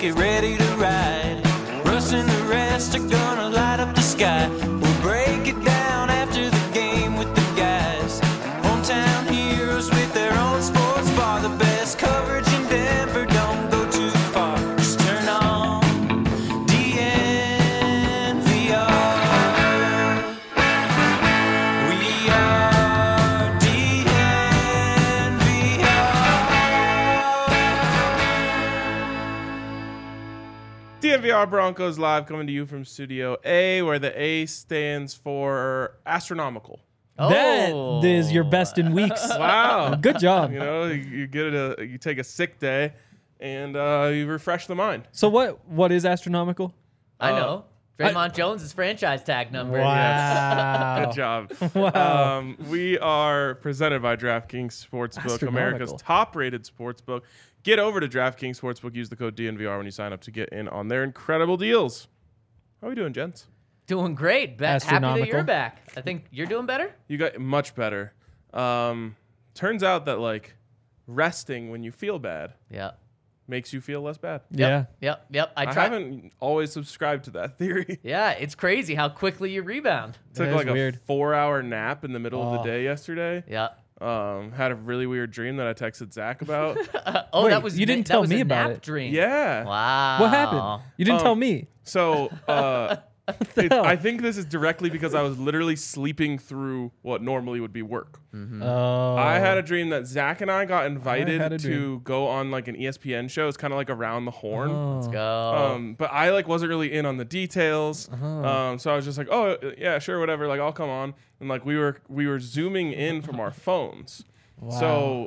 get ready to ride. Russ and the rest are gonna light up the sky. We'll break it down after the game with the guys. Hometown heroes with their own sports bar. The best coverage in Denver, don't go too far. Just turn on DNVR. We are DNVR. DNVR Broncos Live coming to you from Studio A, where the A stands for astronomical. That is your best in weeks. Wow. Good job. You know, you take a sick day and you refresh the mind. So what is astronomical? I know. Draymond Jones' franchise tag number. Wow. Good job. Wow. We are presented by DraftKings Sportsbook, Astronomical. America's top-rated sportsbook. Get over to DraftKings Sportsbook. Use the code DNVR when you sign up to get in on their incredible deals. How are we doing, gents? Doing great. Happy that Astronomical. you're back. I think you're doing better. You got much better. Turns out that resting when you feel bad Yeah. makes you feel less bad. Yeah. Yep. I haven't always subscribed to that theory. Yeah, it's crazy how quickly you rebound. Took That is a weird. 4-hour nap in the middle of the Oh. day yesterday. Yeah. Had a really weird dream that I texted Zach about. Oh, Wait, that was you didn't that tell was me a about nap it. dream. Yeah. Wow. What happened? You didn't tell me. So hell? I think this is directly because I was literally sleeping through what normally would be work. Oh. I had a dream that Zach and I got had a invited to dream. go on an ESPN show. It's kind of like Around the Horn. Oh. Go. But I wasn't really in on the details. So I was just like, oh yeah, sure, whatever. I'll come on. And we were zooming in from our phones. Wow.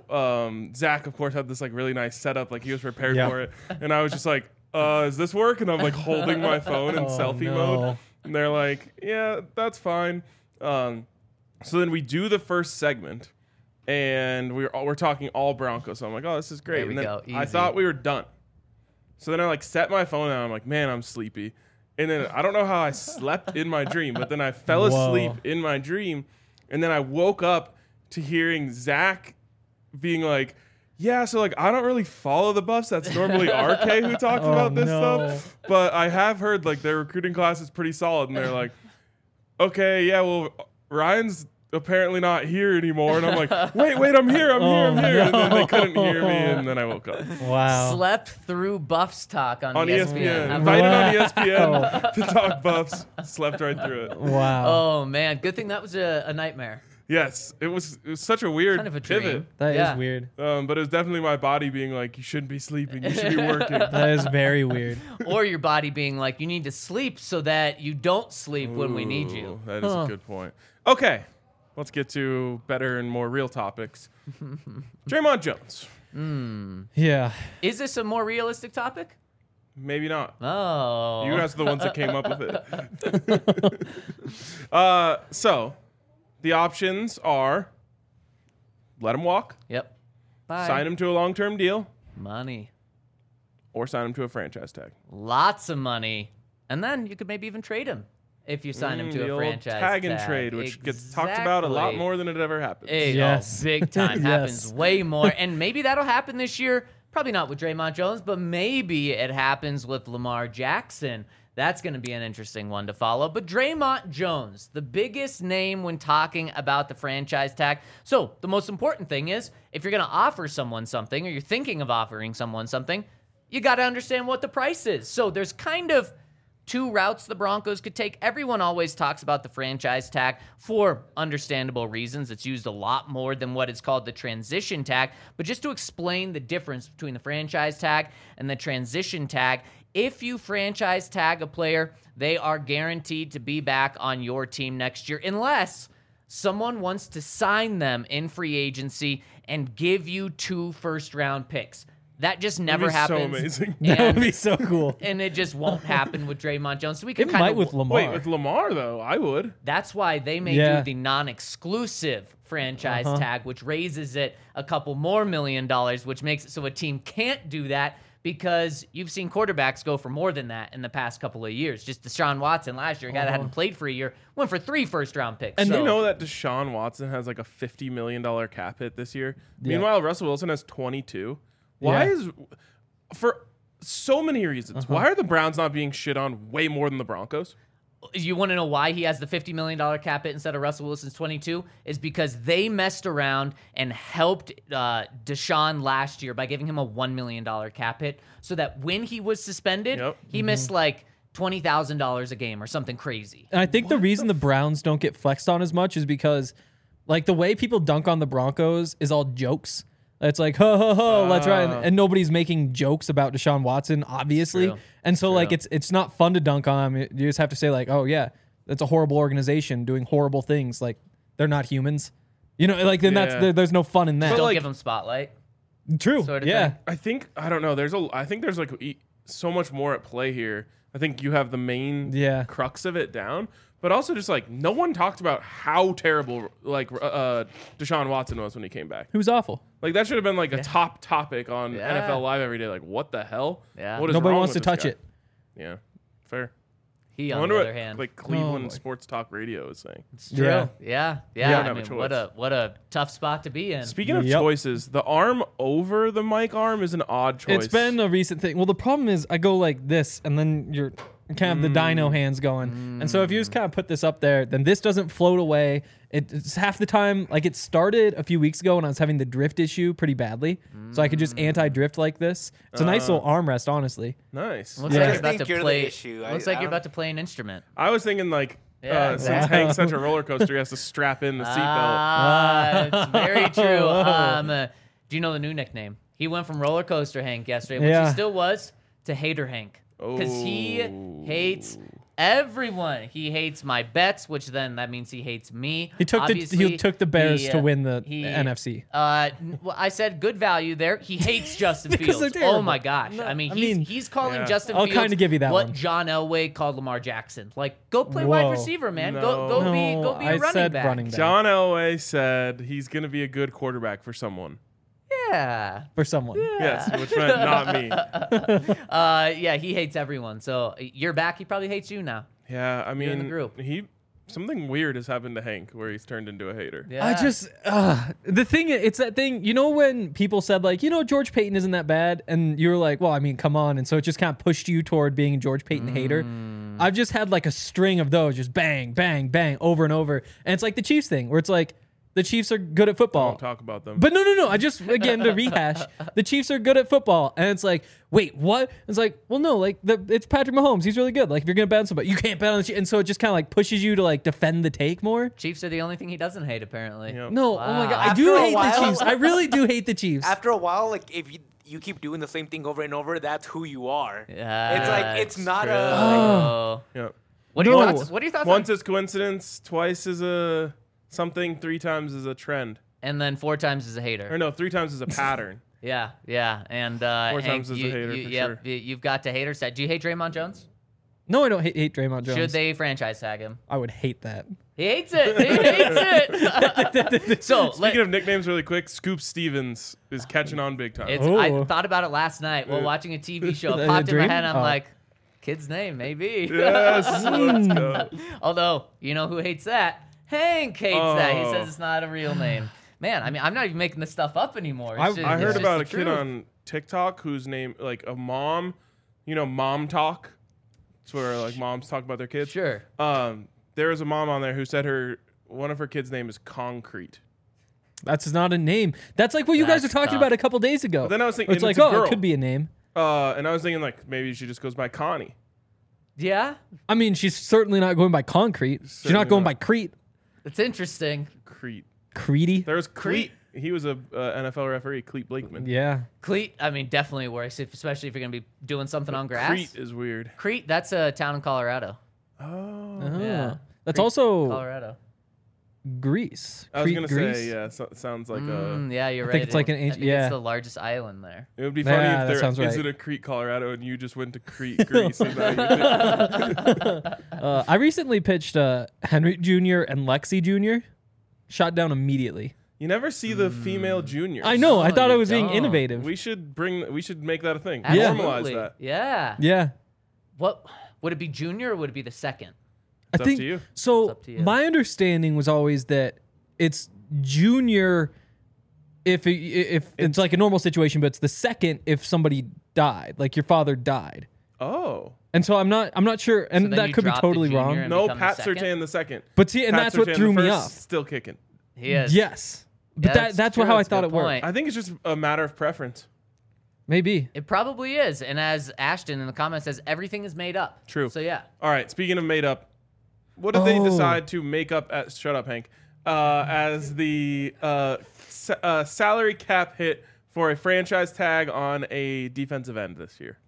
So Zach, of course, had this really nice setup. He was prepared Yeah. for it. And I was just like, is this work? And I'm holding my phone in selfie no. mode. And they're like, yeah, that's fine. So then we do the first segment. And we're talking all Broncos. So I'm like, oh, this is great. There we and then go. I Easy. thought we were done. So then I set my phone down. I'm like, man, I'm sleepy. And then I don't know how I slept in my dream, but then I fell asleep in my dream. And then I woke up to hearing Zach being like, yeah, so I don't really follow the Buffs. That's normally RK who talks about this stuff. But I have heard their recruiting class is pretty solid. And they're like, okay, yeah, well, Ryan's apparently not here anymore. And I'm like, wait, I'm here. I'm here. And then they couldn't hear me. And then I woke up. Wow. Slept through Buffs talk on On ESPN. How Invited about- on ESPN to talk Buffs. Slept right through it. Wow. Oh man, good thing that was a nightmare. Yes, it was such a weird Kind of a dream. pivot. That is Yeah. weird. But it was definitely my body being like, you shouldn't be sleeping. You should be working. That is very weird. Or your body being like, you need to sleep so that you don't sleep when we need you. Ooh, That is a good point. Okay, let's get to better and more real topics. Draymond Jones. Yeah. Is this a more realistic topic? Maybe not. Oh. You guys are the ones that came up with it. So, the options are let him walk, Yep. Bye. sign him to a long-term deal, Money. or sign him to a franchise tag. Lots of money. And then you could maybe even trade him if you sign him The to a old franchise tag and trade, which gets talked about a lot Exactly. more than it ever happens. Yes. Big time. Yes. Happens way more. And maybe that'll happen this year. Probably not with Draymond Jones, but maybe it happens with Lamar Jackson. That's going to be an interesting one to follow. But Draymond Jones, the biggest name when talking about the franchise tag. So the most important thing is if you're going to offer someone something or you're thinking of offering someone something, you got to understand what the price is. So there's kind of two routes the Broncos could take. Everyone always talks about the franchise tag for understandable reasons. It's used a lot more than what is called the transition tag. But just to explain the difference between the franchise tag and the transition tag, if you franchise tag a player, they are guaranteed to be back on your team next year unless someone wants to sign them in free agency and give you 2 first-round picks. That just never That'd be so happens. amazing. That would And- be so cool. and it just won't happen with Draymond Jones. So we can It kind might of with Lamar. Wait, with Lamar, though, I would. That's why they may Yeah. do the non-exclusive franchise tag, which raises it a couple more $1 million, which makes it so a team can't do that because you've seen quarterbacks go for more than that in the past couple of years. Just Deshaun Watson last year, a guy that hadn't played for a year, went for 3 first-round picks. And so, you know that Deshaun Watson has like a $50 million cap hit this year? Meanwhile, Russell Wilson has 22. Why Yeah. is... For so many reasons. Why are the Browns not being shit on way more than the Broncos? You want to know why he has the $50 million cap hit instead of Russell Wilson's 22? Is because they messed around and helped Deshaun last year by giving him a $1 million cap hit so that when he was suspended, he missed like $20,000 a game or something crazy. And I think the reason the Browns don't get flexed on as much is because, like, the way people dunk on the Broncos is all jokes. It's like, ho, ho, ho, let's ride. And nobody's making jokes about Deshaun Watson, obviously. True. And so, like, it's not fun to dunk on him. You just have to say, like, oh, yeah, that's a horrible organization doing horrible things. Like, they're not humans. You know, like, then there's no fun in that. Don't like, give him spotlight. True. Sort of yeah. thing. I don't know. I think there's like so much more at play here. I think you have the main crux of it down, but also just like no one talked about how terrible like Deshaun Watson was when he came back. He was awful. Like that should have been like a top topic on NFL Live every day. Like what the hell? Yeah. What is Nobody wrong wants with to this touch guy? it. Yeah, fair. He, I on wonder the what other hand. like Cleveland boy. Sports Talk Radio is saying. It's true. Yeah. Yeah. don't I have a mean, choice. what a tough spot to be in. Speaking of choices, the arm over the mic arm is an odd choice. It's been a recent thing. Well, the problem is I go like this, and then you're kind of the dino hands going. And so if you just kind of put this up there, then this doesn't float away. It's half the time, like it started a few weeks ago when I was having the drift issue pretty badly. So I could just anti-drift like this. It's a nice little armrest, honestly. nice. Looks Yeah. like I you're about think to you're the play. issue. Looks like you're about to play an instrument. I was thinking like Yeah, since exactly. Hank's such a roller coaster, he has to strap in the seatbelt. It's very true. Do you know the new nickname? He went from Roller Coaster Hank yesterday, which Yeah. he still was, to Hater Hank. Because he hates everyone. He hates my bets, which then that means he hates me. He took Obviously, the Bears he, to win the he- NFC. Well, I said good value there. He hates Justin Because Fields. they're terrible. Oh my gosh! No, I mean, I mean, he's calling Yeah. Justin I'll Fields kinda give you that what one. John Elway called Lamar Jackson. Like, go play Whoa. wide receiver, man. Go No. be a I running said back. running back. John Elway said he's going to be a good quarterback for someone. Yeah. For someone. Yes, which meant not me. Yeah, he hates everyone. So you're back. He probably hates you now. Yeah, I in the mean, group. something weird has happened to Hank where he's turned into a hater. Yeah. I just the thing, it's that thing, you know, when people said like, you know, George Payton isn't that bad, and you were like, well, I mean, come on, and so it just kind of pushed you toward being a George Payton hater. I've just had like a string of those, just bang, bang, bang, over and over, and it's like the Chiefs thing where it's like the Chiefs are good at football. Don't talk about them. But no. I just, again, to rehash, the Chiefs are good at football. And it's like, wait, what? It's like, well, no, like, it's Patrick Mahomes. He's really good. Like, if you're going to bet on somebody, you can't bet on the Chiefs. And so it just kind of like pushes you to like defend the take more. Chiefs are the only thing he doesn't hate, apparently. Yep. No, oh my God. I After do a hate the while- Chiefs. I really do hate the Chiefs. After a while, like if you keep doing the same thing over and over, that's who you are. Yeah, It's like it's not true. a. Yeah. What are your No. thoughts? What are your thoughts? Once on, is coincidence, twice is a something, 3 times is a trend. and then 4 times is a hater. Or no, 3 times is a pattern. Yeah, and 4 Hank, times is a hater for sure. You've got to hater set. Do you hate Draymond Jones? No, I don't hate Draymond Jones. Should they franchise tag him? I would hate that. He hates it. He hates it. So Speaking of nicknames, really quick, Scoop Stevens is catching on big time. I Ooh. thought about it last night while watching a TV show. It A popped in my dream? head. I'm Oh. like, kid's name, maybe. Yes, let's go. Although, you know who hates that? Hank hates that. He Oh. says it's not a real name. Man, I mean, I'm not even making this stuff up anymore. It's I just- I it's heard just about the a kid truth. on TikTok whose name, like a mom, you know, mom talk. It's where like moms talk about their kids. Sure. There was a mom on there who said one of her kids' name is Concrete. That's not a name. That's like what you guys were That's talking tough. about a couple days ago. But then I was thinking, it's and like, it's a oh, girl. it could be a name. And I was thinking like maybe she just goes by Connie. Yeah, I mean, she's certainly not going by concrete. She's Certainly not going not. by Crete. it's interesting. Crete. Creedy. There was Cleat. He was a NFL referee, Cleat Blakeman. Yeah. Cleat, I mean, definitely works, especially if you're going to be doing something on grass. Crete is weird. Crete, that's a town in Colorado. Oh. Oh. Yeah. That's Crete, also Colorado. Greece. I was Crete, gonna Greece? say, yeah, it sounds like Yeah, you're I right. think it's like an I ancient- think yeah. it's the largest island there. it would be funny Yeah, that if sounds there right. isn't a Crete, Colorado, and you just went to Crete, Greece. And now you're I recently pitched Henry Jr. and Lexi Jr. Shot down immediately. you never see the female juniors. I know. I No, thought I you was being don't. innovative. We should make that a thing. Yeah. Normalize Absolutely. that. Yeah. Yeah. What would it be, junior or would it be the second? It's up to you. So up to you. my understanding was always that it's junior if it's like a normal situation, but it's the second if somebody died, like your father died. Oh. And so I'm not sure, and then that you could be drop the totally junior wrong. and No, become the Pat second? Surtain the second. But see, and Pat that's what Surtain threw the me first, off. Still kicking. He is. Yes, but Yeah, that's true. how I That's a thought good it worked. point. I think it's just a matter of preference. Maybe. It probably is. And as Ashton in the comments says, everything is made up. True. So yeah. All right. Speaking of made up, what did they decide to make up at? Shut up, Hank. As the salary cap hit for a franchise tag on a defensive end this year.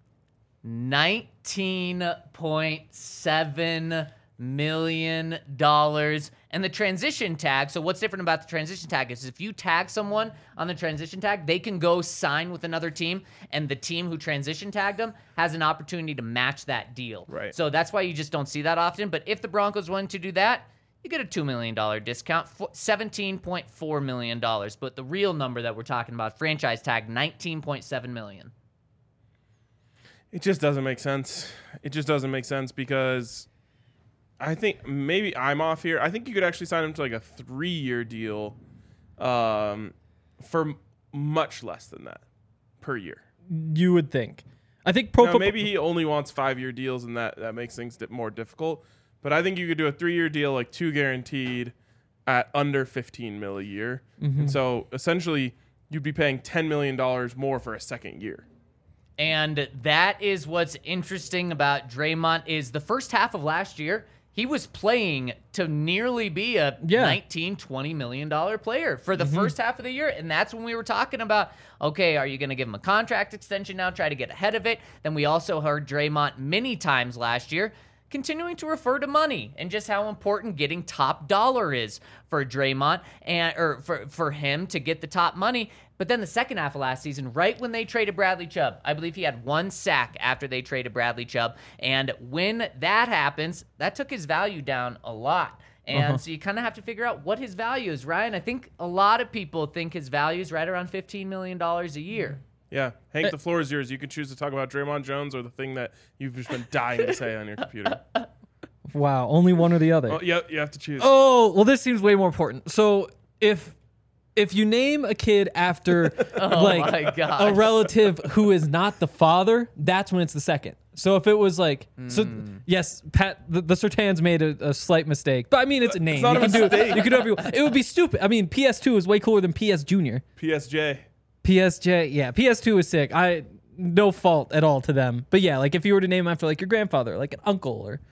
$19.7 million. And the transition tag, so what's different about the transition tag is if you tag someone on the transition tag, they can go sign with another team, and the team who transition tagged them has an opportunity to match that deal. Right. So that's why you just don't see that often. But if the Broncos wanted to do that, you get a $2 million discount, $17.4 million. But the real number that we're talking about, franchise tag, $19.7 million. It just doesn't make sense. It just doesn't make sense because I think maybe I'm off here. I think you could actually sign him to like a 3-year deal for much less than that per year. You would think. I think Maybe he only wants 5-year deals, and that makes things more difficult. But I think you could do a 3-year deal, like 2 guaranteed, at under $15 million a year. And so essentially, you'd be paying $10 million more for a second year. And that is what's interesting about Draymond is the first half of last year, he was playing to nearly be a $19, $20 million player for the first half of the year. And that's when we were talking about, okay, are you going to give him a contract extension now, try to get ahead of it? Then we also heard Draymond many times last year continuing to refer to money and just how important getting top dollar is for Draymond or for him to get the top money. But then the second half of last season, right when they traded Bradley Chubb, I believe he had 1 sack after they traded Bradley Chubb. And when that happens, that took his value down a lot. And so you kind of have to figure out what his value is, Ryan. I think a lot of people think his value is right around $15 million a year. Yeah. Hank, the floor is yours. You can choose to talk about Draymond Jones or the thing that you've just been dying to say on your computer. Wow, only one or the other. Oh, yeah, you have to choose. Oh, well, this seems way more important. So if you name a kid after my gosh. a relative who is not the father, that's when it's the second. So if it was like, so yes, Pat, the Surtains made a slight mistake, but I mean it's a name. It's not a mistake. You can do whatever you want. It would be stupid. I mean, PS2 is way cooler than PS Junior. PSJ. PSJ, yeah, PS2 is sick. No fault at all to them. But yeah, like if you were to name after like your grandfather, like an uncle, or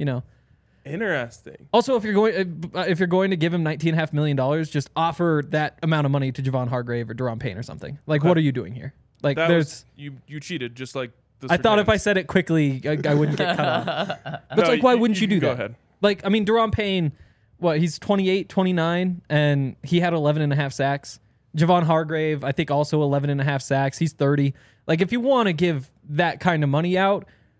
Interesting. Also, if you're going to give him $19.5 million, just offer that amount of money to Javon Hargrave or Deron Payne or something. Like, what are you doing here? Like, You cheated, just like the I thought if I Surtains. said it quickly, I wouldn't get cut off. But it's like, why wouldn't you do go that? ahead. Like, I mean, Deron Payne, he's 28, 29, and he had 11.5 sacks. Javon Hargrave, I think, also 11.5 sacks. He's 30. Like, if you want to give that kind of money out,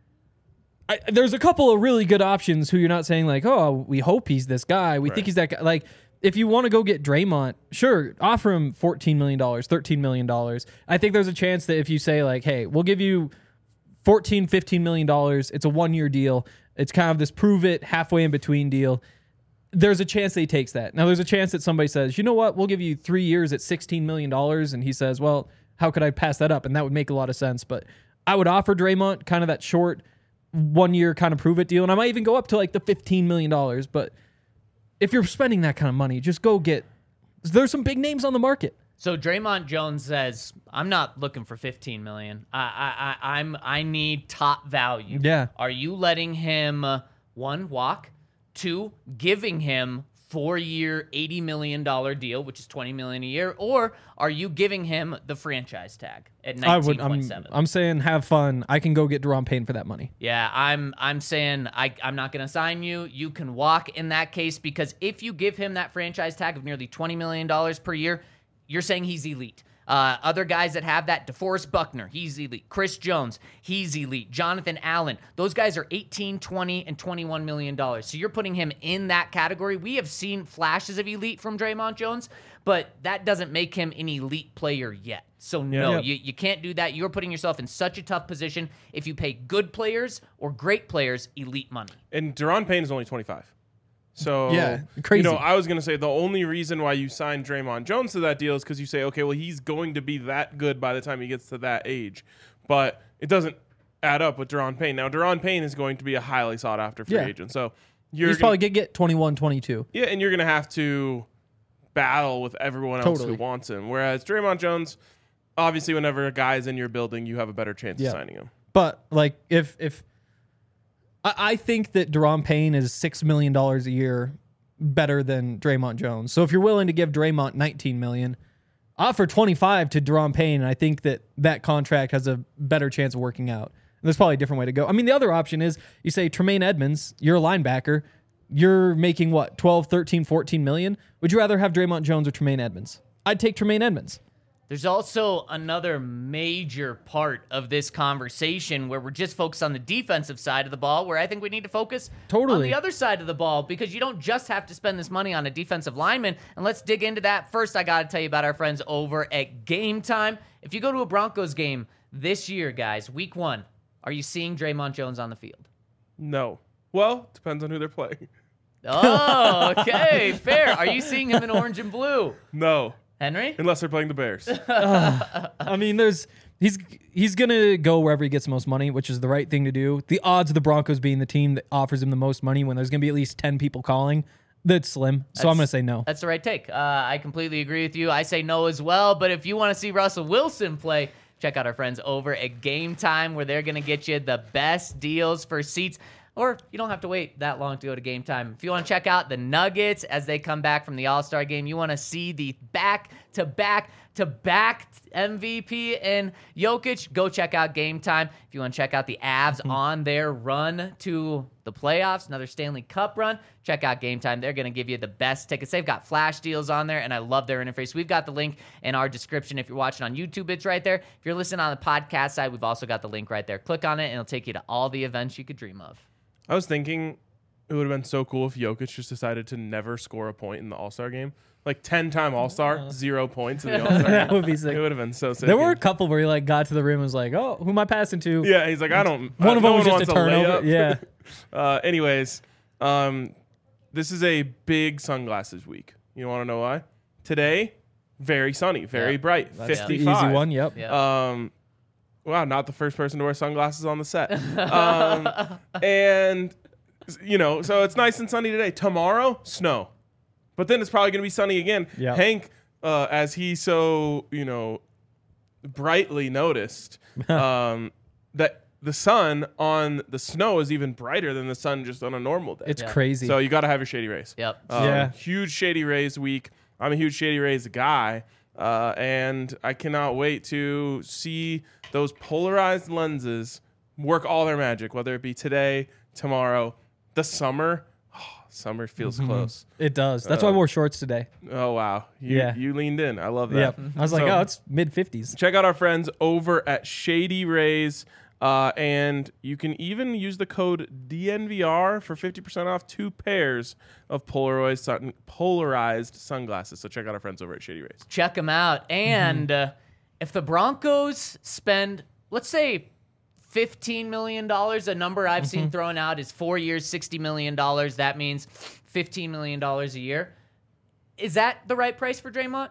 there's a couple of really good options who you're not saying like, oh, we hope he's this guy. We think he's that guy. Like, if you want to go get Draymond, sure, offer him $14 million, $13 million. I think there's a chance that if you say like, hey, we'll give you $14, $15 million. It's a 1-year deal. It's kind of this prove it halfway in between deal. There's a chance that he takes that. Now, there's a chance that somebody says, you know what, we'll give you 3 years at $16 million. And he says, well, how could I pass that up? And that would make a lot of sense. But I would offer Draymond kind of that short 1-year kind of prove it deal. And I might even go up to like the $15 million. But if you're spending that kind of money, just go get, there's some big names on the market. So Draymond Jones says, I'm not looking for $15 million. I need top value. Yeah. Are you letting him, 1, walk, 2, giving him 4-year, $80 million deal, which is $20 million a year, or are you giving him the franchise tag at 19.7? I'm saying have fun. I can go get Deron Payne for that money. Yeah, I'm saying I'm not going to sign you. You can walk in that case, because if you give him that franchise tag of nearly $20 million per year, you're saying he's elite. Other guys that have that, DeForest Buckner, he's elite. Chris Jones, he's elite. Jonathan Allen, those guys are 18, 20, and $21 million. So you're putting him in that category. We have seen flashes of elite from Draymond Jones, but that doesn't make him an elite player yet. So no, you can't do that. You're putting yourself in such a tough position if you pay good players or great players elite money. And Deron Payne is only 25. So, Yeah, crazy. I was going to say the only reason why you signed Draymond Jones to that deal is because you say, okay, well, he's going to be that good by the time he gets to that age. But it doesn't add up with Deron Payne. Now, Deron Payne is going to be a highly sought-after free agent. So He's probably going to get 21, 22. Yeah, and you're going to have to battle with everyone else who wants him. Whereas Draymond Jones, obviously, whenever a guy's in your building, you have a better chance of signing him. But, like, if I think that Deron Payne is $6 million a year better than Draymond Jones. So if you're willing to give Draymond $19 million, offer 25 to Deron Payne, and I think that contract has a better chance of working out. And there's probably a different way to go. I mean, the other option is you say Tremaine Edmonds, you're a linebacker, you're making what, 12, 13, 14 million? Would you rather have Draymond Jones or Tremaine Edmonds? I'd take Tremaine Edmonds. There's also another major part of this conversation where we're just focused on the defensive side of the ball, where I think we need to focus on the other side of the ball, because you don't just have to spend this money on a defensive lineman. And let's dig into that. First, I got to tell you about our friends over at Game Time. If you go to a Broncos game this year, guys, week 1, are you seeing Draymond Jones on the field? No. Well, depends on who they're playing. Oh, okay, fair. Are you seeing him in orange and blue? No. Henry? Unless they're playing the Bears. I mean, he's gonna go wherever he gets the most money, which is the right thing to do. The odds of the Broncos being the team that offers him the most money when there's gonna be at least 10 people calling, that's slim. So I'm gonna say no. That's the right take. I completely agree with you. I say no as well. But if you want to see Russell Wilson play, check out our friends over at Game Time, where they're gonna get you the best deals for seats. Or you don't have to wait that long to go to Game Time. If you want to check out the Nuggets as they come back from the All-Star game, you want to see the back-to-back MVP and Jokic, go check out Game Time. If you want to check out the Avs on their run to the playoffs, another Stanley Cup run, check out Game Time. They're going to give you the best tickets. They've got flash deals on there, and I love their interface. We've got the link in our description. If you're watching on YouTube, it's right there. If you're listening on the podcast side, we've also got the link right there. Click on it, and it'll take you to all the events you could dream of. I was thinking it would have been so cool if Jokic just decided to never score a point in the All-Star game. Like 10-time All-Star, 0 points in the All-Star game. That would be sick. It would have been so sick. There were a couple where he got to the rim and was like, "Oh, who am I passing to?" Yeah, he's like, I don't. One of them no was one just a wants turnover. layup. Yeah. Anyways, this is a big sunglasses week. You want to know why? Today, very sunny, very bright, That's 55. the easy one. Yep. Yeah. Wow, not the first person to wear sunglasses on the set. And so it's nice and sunny today. Tomorrow, snow. But then it's probably going to be sunny again. Yep. Hank, as he so, brightly noticed, that the sun on the snow is even brighter than the sun just on a normal day. It's crazy. So you got to have your Shady Rays. Yep. Yeah. Huge Shady Rays week. I'm a huge Shady Rays guy. And I cannot wait to see those polarized lenses work all their magic, whether it be today, tomorrow, the summer. Summer feels close. It does. That's why I wore shorts today. Oh, wow. You leaned in. I love that. Yep. I was like, oh, it's mid-50s. Check out our friends over at Shady Rays. And you can even use the code DNVR for 50% off 2 pairs of polarized sunglasses. So check out our friends over at Shady Rays. Check them out. And if the Broncos spend, let's say, $15 million, a number I've seen thrown out is 4 years, $60 million. That means $15 million a year. Is that the right price for Draymond?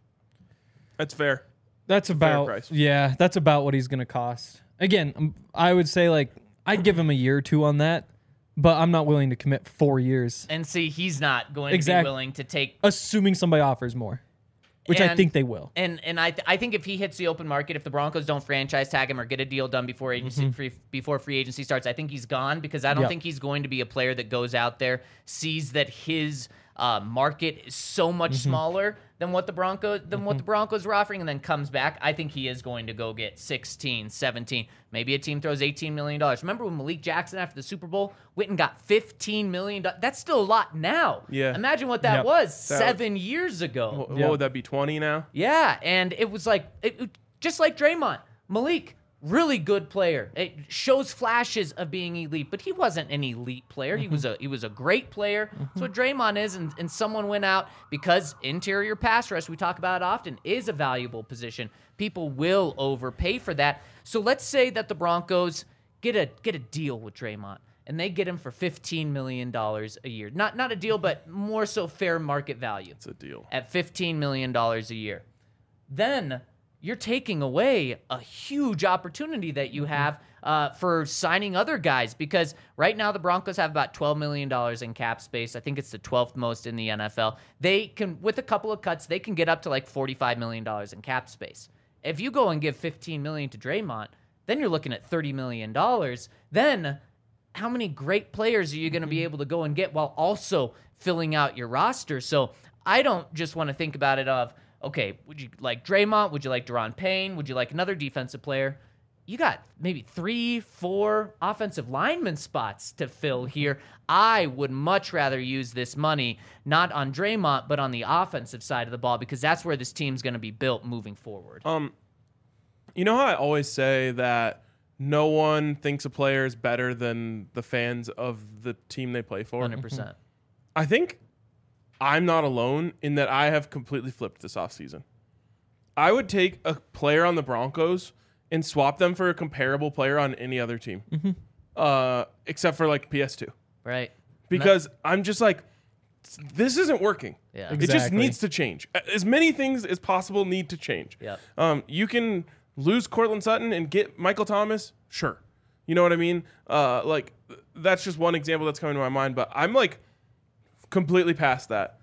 That's fair. That's about price. Yeah, that's about what he's going to cost. Again, I would say I'd give him a year or two on that, but I'm not willing to commit 4 years. And see, he's not going to be willing to take, assuming somebody offers more, which I think they will. And I think if he hits the open market, if the Broncos don't franchise tag him or get a deal done before before free agency starts, I think he's gone, because I don't think he's going to be a player that goes out there, sees that his market is so much smaller than what the Broncos were offering, and then comes back. I think he is going to go get 16, 17. Maybe a team throws $18 million. Remember when Malik Jackson after the Super Bowl went and got $15 million? That's still a lot now. Yeah. Imagine what that was 7 years ago. What would that be, 20 now? Yeah, and it was just like Draymond. Malik, really good player. It shows flashes of being elite, but he wasn't an elite player. He was a great player. That's what Draymond is, and someone went out because interior pass rush, we talk about it often, is a valuable position. People will overpay for that. So let's say that the Broncos get a deal with Draymond, and they get him for $15 million a year. Not a deal, but more so fair market value. It's a deal. At $15 million a year. Then you're taking away a huge opportunity that you have for signing other guys, because right now the Broncos have about $12 million in cap space. I think it's the 12th most in the NFL. They can, with a couple of cuts, they can get up to like $45 million in cap space. If you go and give $15 million to Draymond, then you're looking at $30 million. Then how many great players are you going to be able to go and get while also filling out your roster? So I don't just want to think about it of, okay, would you like Draymond? Would you like Deron Payne? Would you like another defensive player? You got maybe 3-4 offensive lineman spots to fill here. I would much rather use this money not on Draymond, but on the offensive side of the ball, because that's where this team's going to be built moving forward. You know how I always say that no one thinks a player is better than the fans of the team they play for? 100%. I think I'm not alone in that I have completely flipped this offseason. I would take a player on the Broncos and swap them for a comparable player on any other team, except for like PS2. Right. Because I'm just like, this isn't working. Yeah. It just Exactly. needs to change. As many things as possible need to change. Yep. You can lose Cortland Sutton and get Michael Thomas, sure. You know what I mean? Like, that's just one example that's coming to my mind, but I'm like completely past that.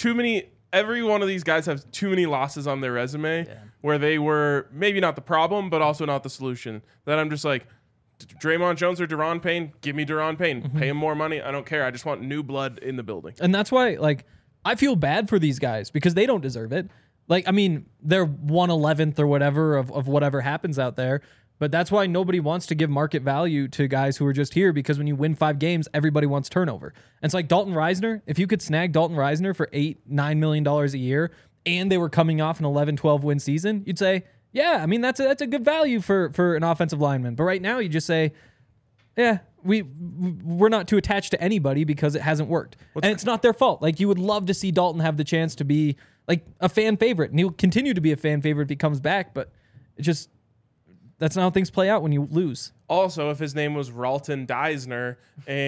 Every one of these guys have too many losses on their resume where they were maybe not the problem, but also not the solution. That I'm just like, Draymond Jones or Deron Payne, give me Deron Payne. Pay him more money. I don't care. I just want new blood in the building. And that's why, like, I feel bad for these guys because they don't deserve it. Like, I mean, they're 1/11th or whatever of whatever happens out there. But that's why nobody wants to give market value to guys who are just here, because when you win 5 games, everybody wants turnover. And it's like Dalton Reisner. If you could snag Dalton Reisner for $8-9 million a year and they were coming off an 11-12 win season, you'd say, yeah, I mean, that's a good value for an offensive lineman. But right now you just say, yeah, we're not too attached to anybody because it hasn't worked. And it's not their fault. Like, you would love to see Dalton have the chance to be like a fan favorite, and he'll continue to be a fan favorite if he comes back, but it just, that's not how things play out when you lose. Also, if his name was Ralton Deisner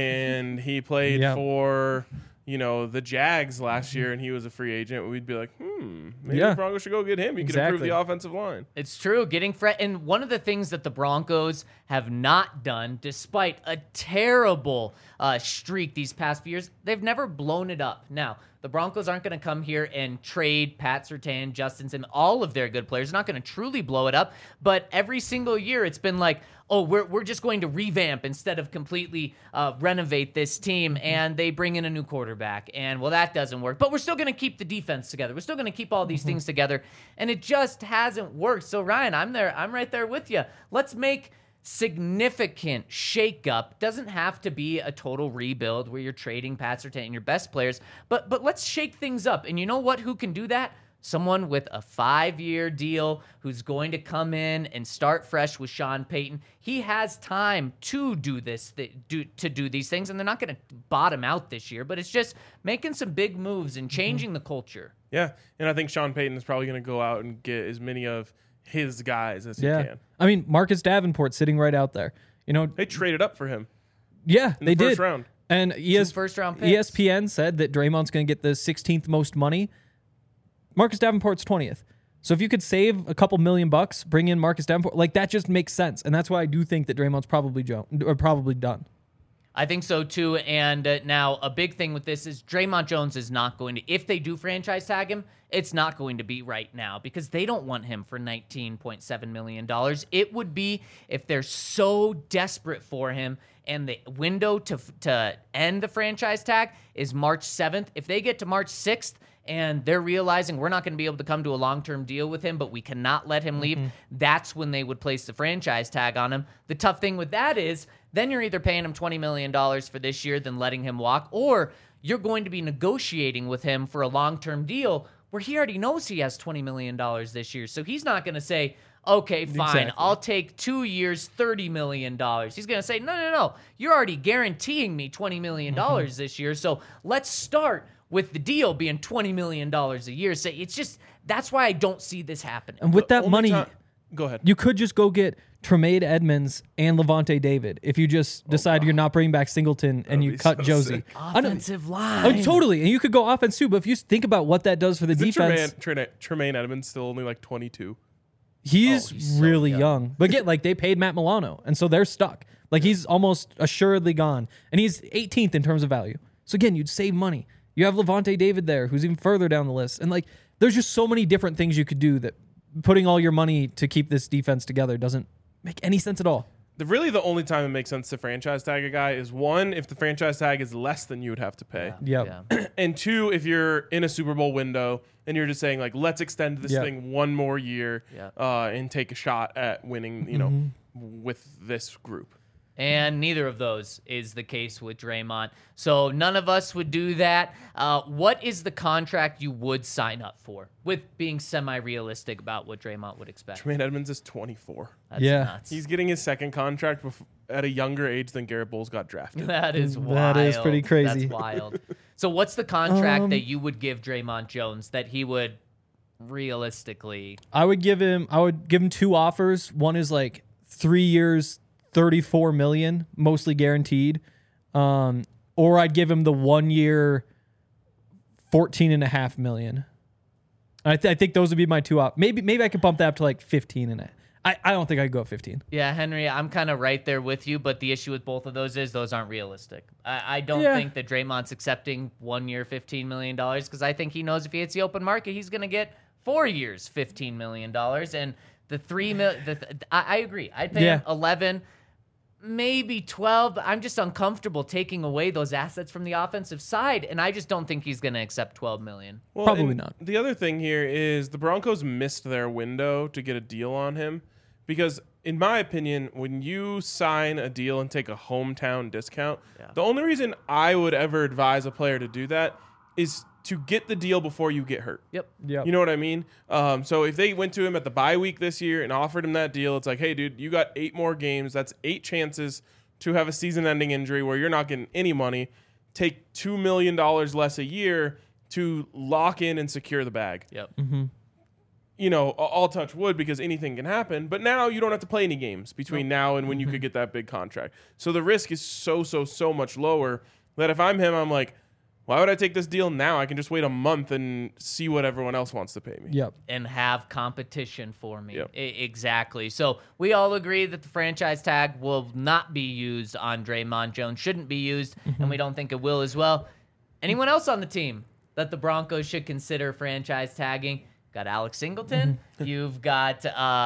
and he played for, the Jags last year and he was a free agent, we'd be like, maybe the Broncos should go get him. He could improve the offensive line. It's true. Getting and one of the things that the Broncos have not done, despite a terrible streak these past few years, they've never blown it up. Now, the Broncos aren't going to come here and trade Pat Surtain, Justin Simmons, all of their good players. They're not going to truly blow it up. But every single year, it's been like, oh, we're just going to revamp instead of completely renovate this team. And they bring in a new quarterback. And, well, that doesn't work. But we're still going to keep the defense together. We're still going to keep all these things together. And it just hasn't worked. So, Ryan, I'm right there with you. Let's make significant shakeup. Doesn't have to be a total rebuild where you're trading Pat Surtain and your best players, but let's shake things up. And you know what? Who can do that? Someone with a 5-year deal who's going to come in and start fresh with Sean Payton. He has time to do this, to do these things, and they're not going to bottom out this year. But it's just making some big moves and changing the culture. Yeah, and I think Sean Payton is probably going to go out and get as many of his guys as he can. I mean, Marcus Davenport sitting right out there. They traded up for him. Yeah, in the first round. And first-round picks. ESPN said that Draymond's going to get the 16th most money. Marcus Davenport's 20th. So if you could save a couple $1,000,000, bring in Marcus Davenport, like, that just makes sense. And that's why I do think that Draymond's probably done. I think so too. And now a big thing with this is Draymond Jones is not going to, if they do franchise tag him, it's not going to be right now because they don't want him for $19.7 million. It would be if they're so desperate for him and the window to end the franchise tag is March 7th. If they get to March 6th, and they're realizing we're not going to be able to come to a long-term deal with him, but we cannot let him leave, that's when they would place the franchise tag on him. The tough thing with that is then you're either paying him $20 million for this year than letting him walk, or you're going to be negotiating with him for a long-term deal where he already knows he has $20 million this year. So he's not going to say, okay, fine, Exactly. I'll take 2 years, $30 million. He's going to say, no, you're already guaranteeing me $20 million this year, so let's start with the deal being $20 million a year. So it's just, that's why I don't see this happening. And with that Only money, Go ahead. you could just go get Tremaine Edmonds and Levante David. If you just decide you're not bringing back Singleton and you be cut so Josie. sick. I know- Offensive line. Oh, totally. And you could go offense too, but if you think about what that does for the Isn't defense, Tremaine Edmonds still only like 22? he's he's so really young. young. But again, like they paid Matt Milano, and so they're stuck. Like he's almost assuredly gone. And he's 18th in terms of value. So again, you'd save money. You have Levante David there, who's even further down the list. And like there's just so many different things you could do that putting all your money to keep this defense together doesn't make any sense at all. Really, the only time it makes sense to franchise tag a guy is one, if the franchise tag is less than you would have to pay. Yep. Yeah. And two, if you're in a Super Bowl window and you're just saying, like, let's extend this Yeah. thing one more year Yeah. and take a shot at winning, you know, with this group. And neither of those is the case with Draymond. So none of us would do that. What is the contract you would sign up for with being semi-realistic about what Draymond would expect? Tremaine Edmonds is 24. That's Yeah. nuts. He's getting his second contract at a younger age than Garrett Bowles got drafted. That is wild. That is pretty crazy. That's wild. So what's the contract that you would give Draymond Jones that he would realistically? I would give him two offers. One is like 3 years, $34 million, mostly guaranteed. Or I'd give him the 1 year, $14.5 million. I think those would be my two maybe I could bump that up to like 15 and I don't think I could go 15. Yeah, Henry, I'm kind of right there with you, but the issue with both of those is those aren't realistic. I don't Yeah. think that Draymond's accepting 1 year, $15 million, because I think he knows if he hits the open market, he's going to get 4 years, $15 million. And the $3 million, I agree. I'd pay him 11, maybe 12, but I'm just uncomfortable taking away those assets from the offensive side, and I just don't think he's going to accept $12 million. Well, Probably and not. The other thing here is the Broncos missed their window to get a deal on him because, in my opinion, when you sign a deal and take a hometown discount, the only reason I would ever advise a player to do that is to get the deal before you get hurt. Yep. You know what I mean? So if they went to him at the bye week this year and offered him that deal, it's like, hey, dude, you got 8 more games. That's 8 chances to have a season-ending injury where you're not getting any money. Take $2 million less a year to lock in and secure the bag. Yep. You know, I'll touch wood because anything can happen. But now you don't have to play any games between now and when you could get that big contract. So the risk is so much lower that if I'm him, I'm like, why would I take this deal now? I can just wait a month and see what everyone else wants to pay me. Yep. And have competition for me. Yep. Exactly. So we all agree that the franchise tag will not be used on Draymond Jones, shouldn't be used, and we don't think it will as well. Anyone else on the team that the Broncos should consider franchise tagging? Got Alex Singleton. You've got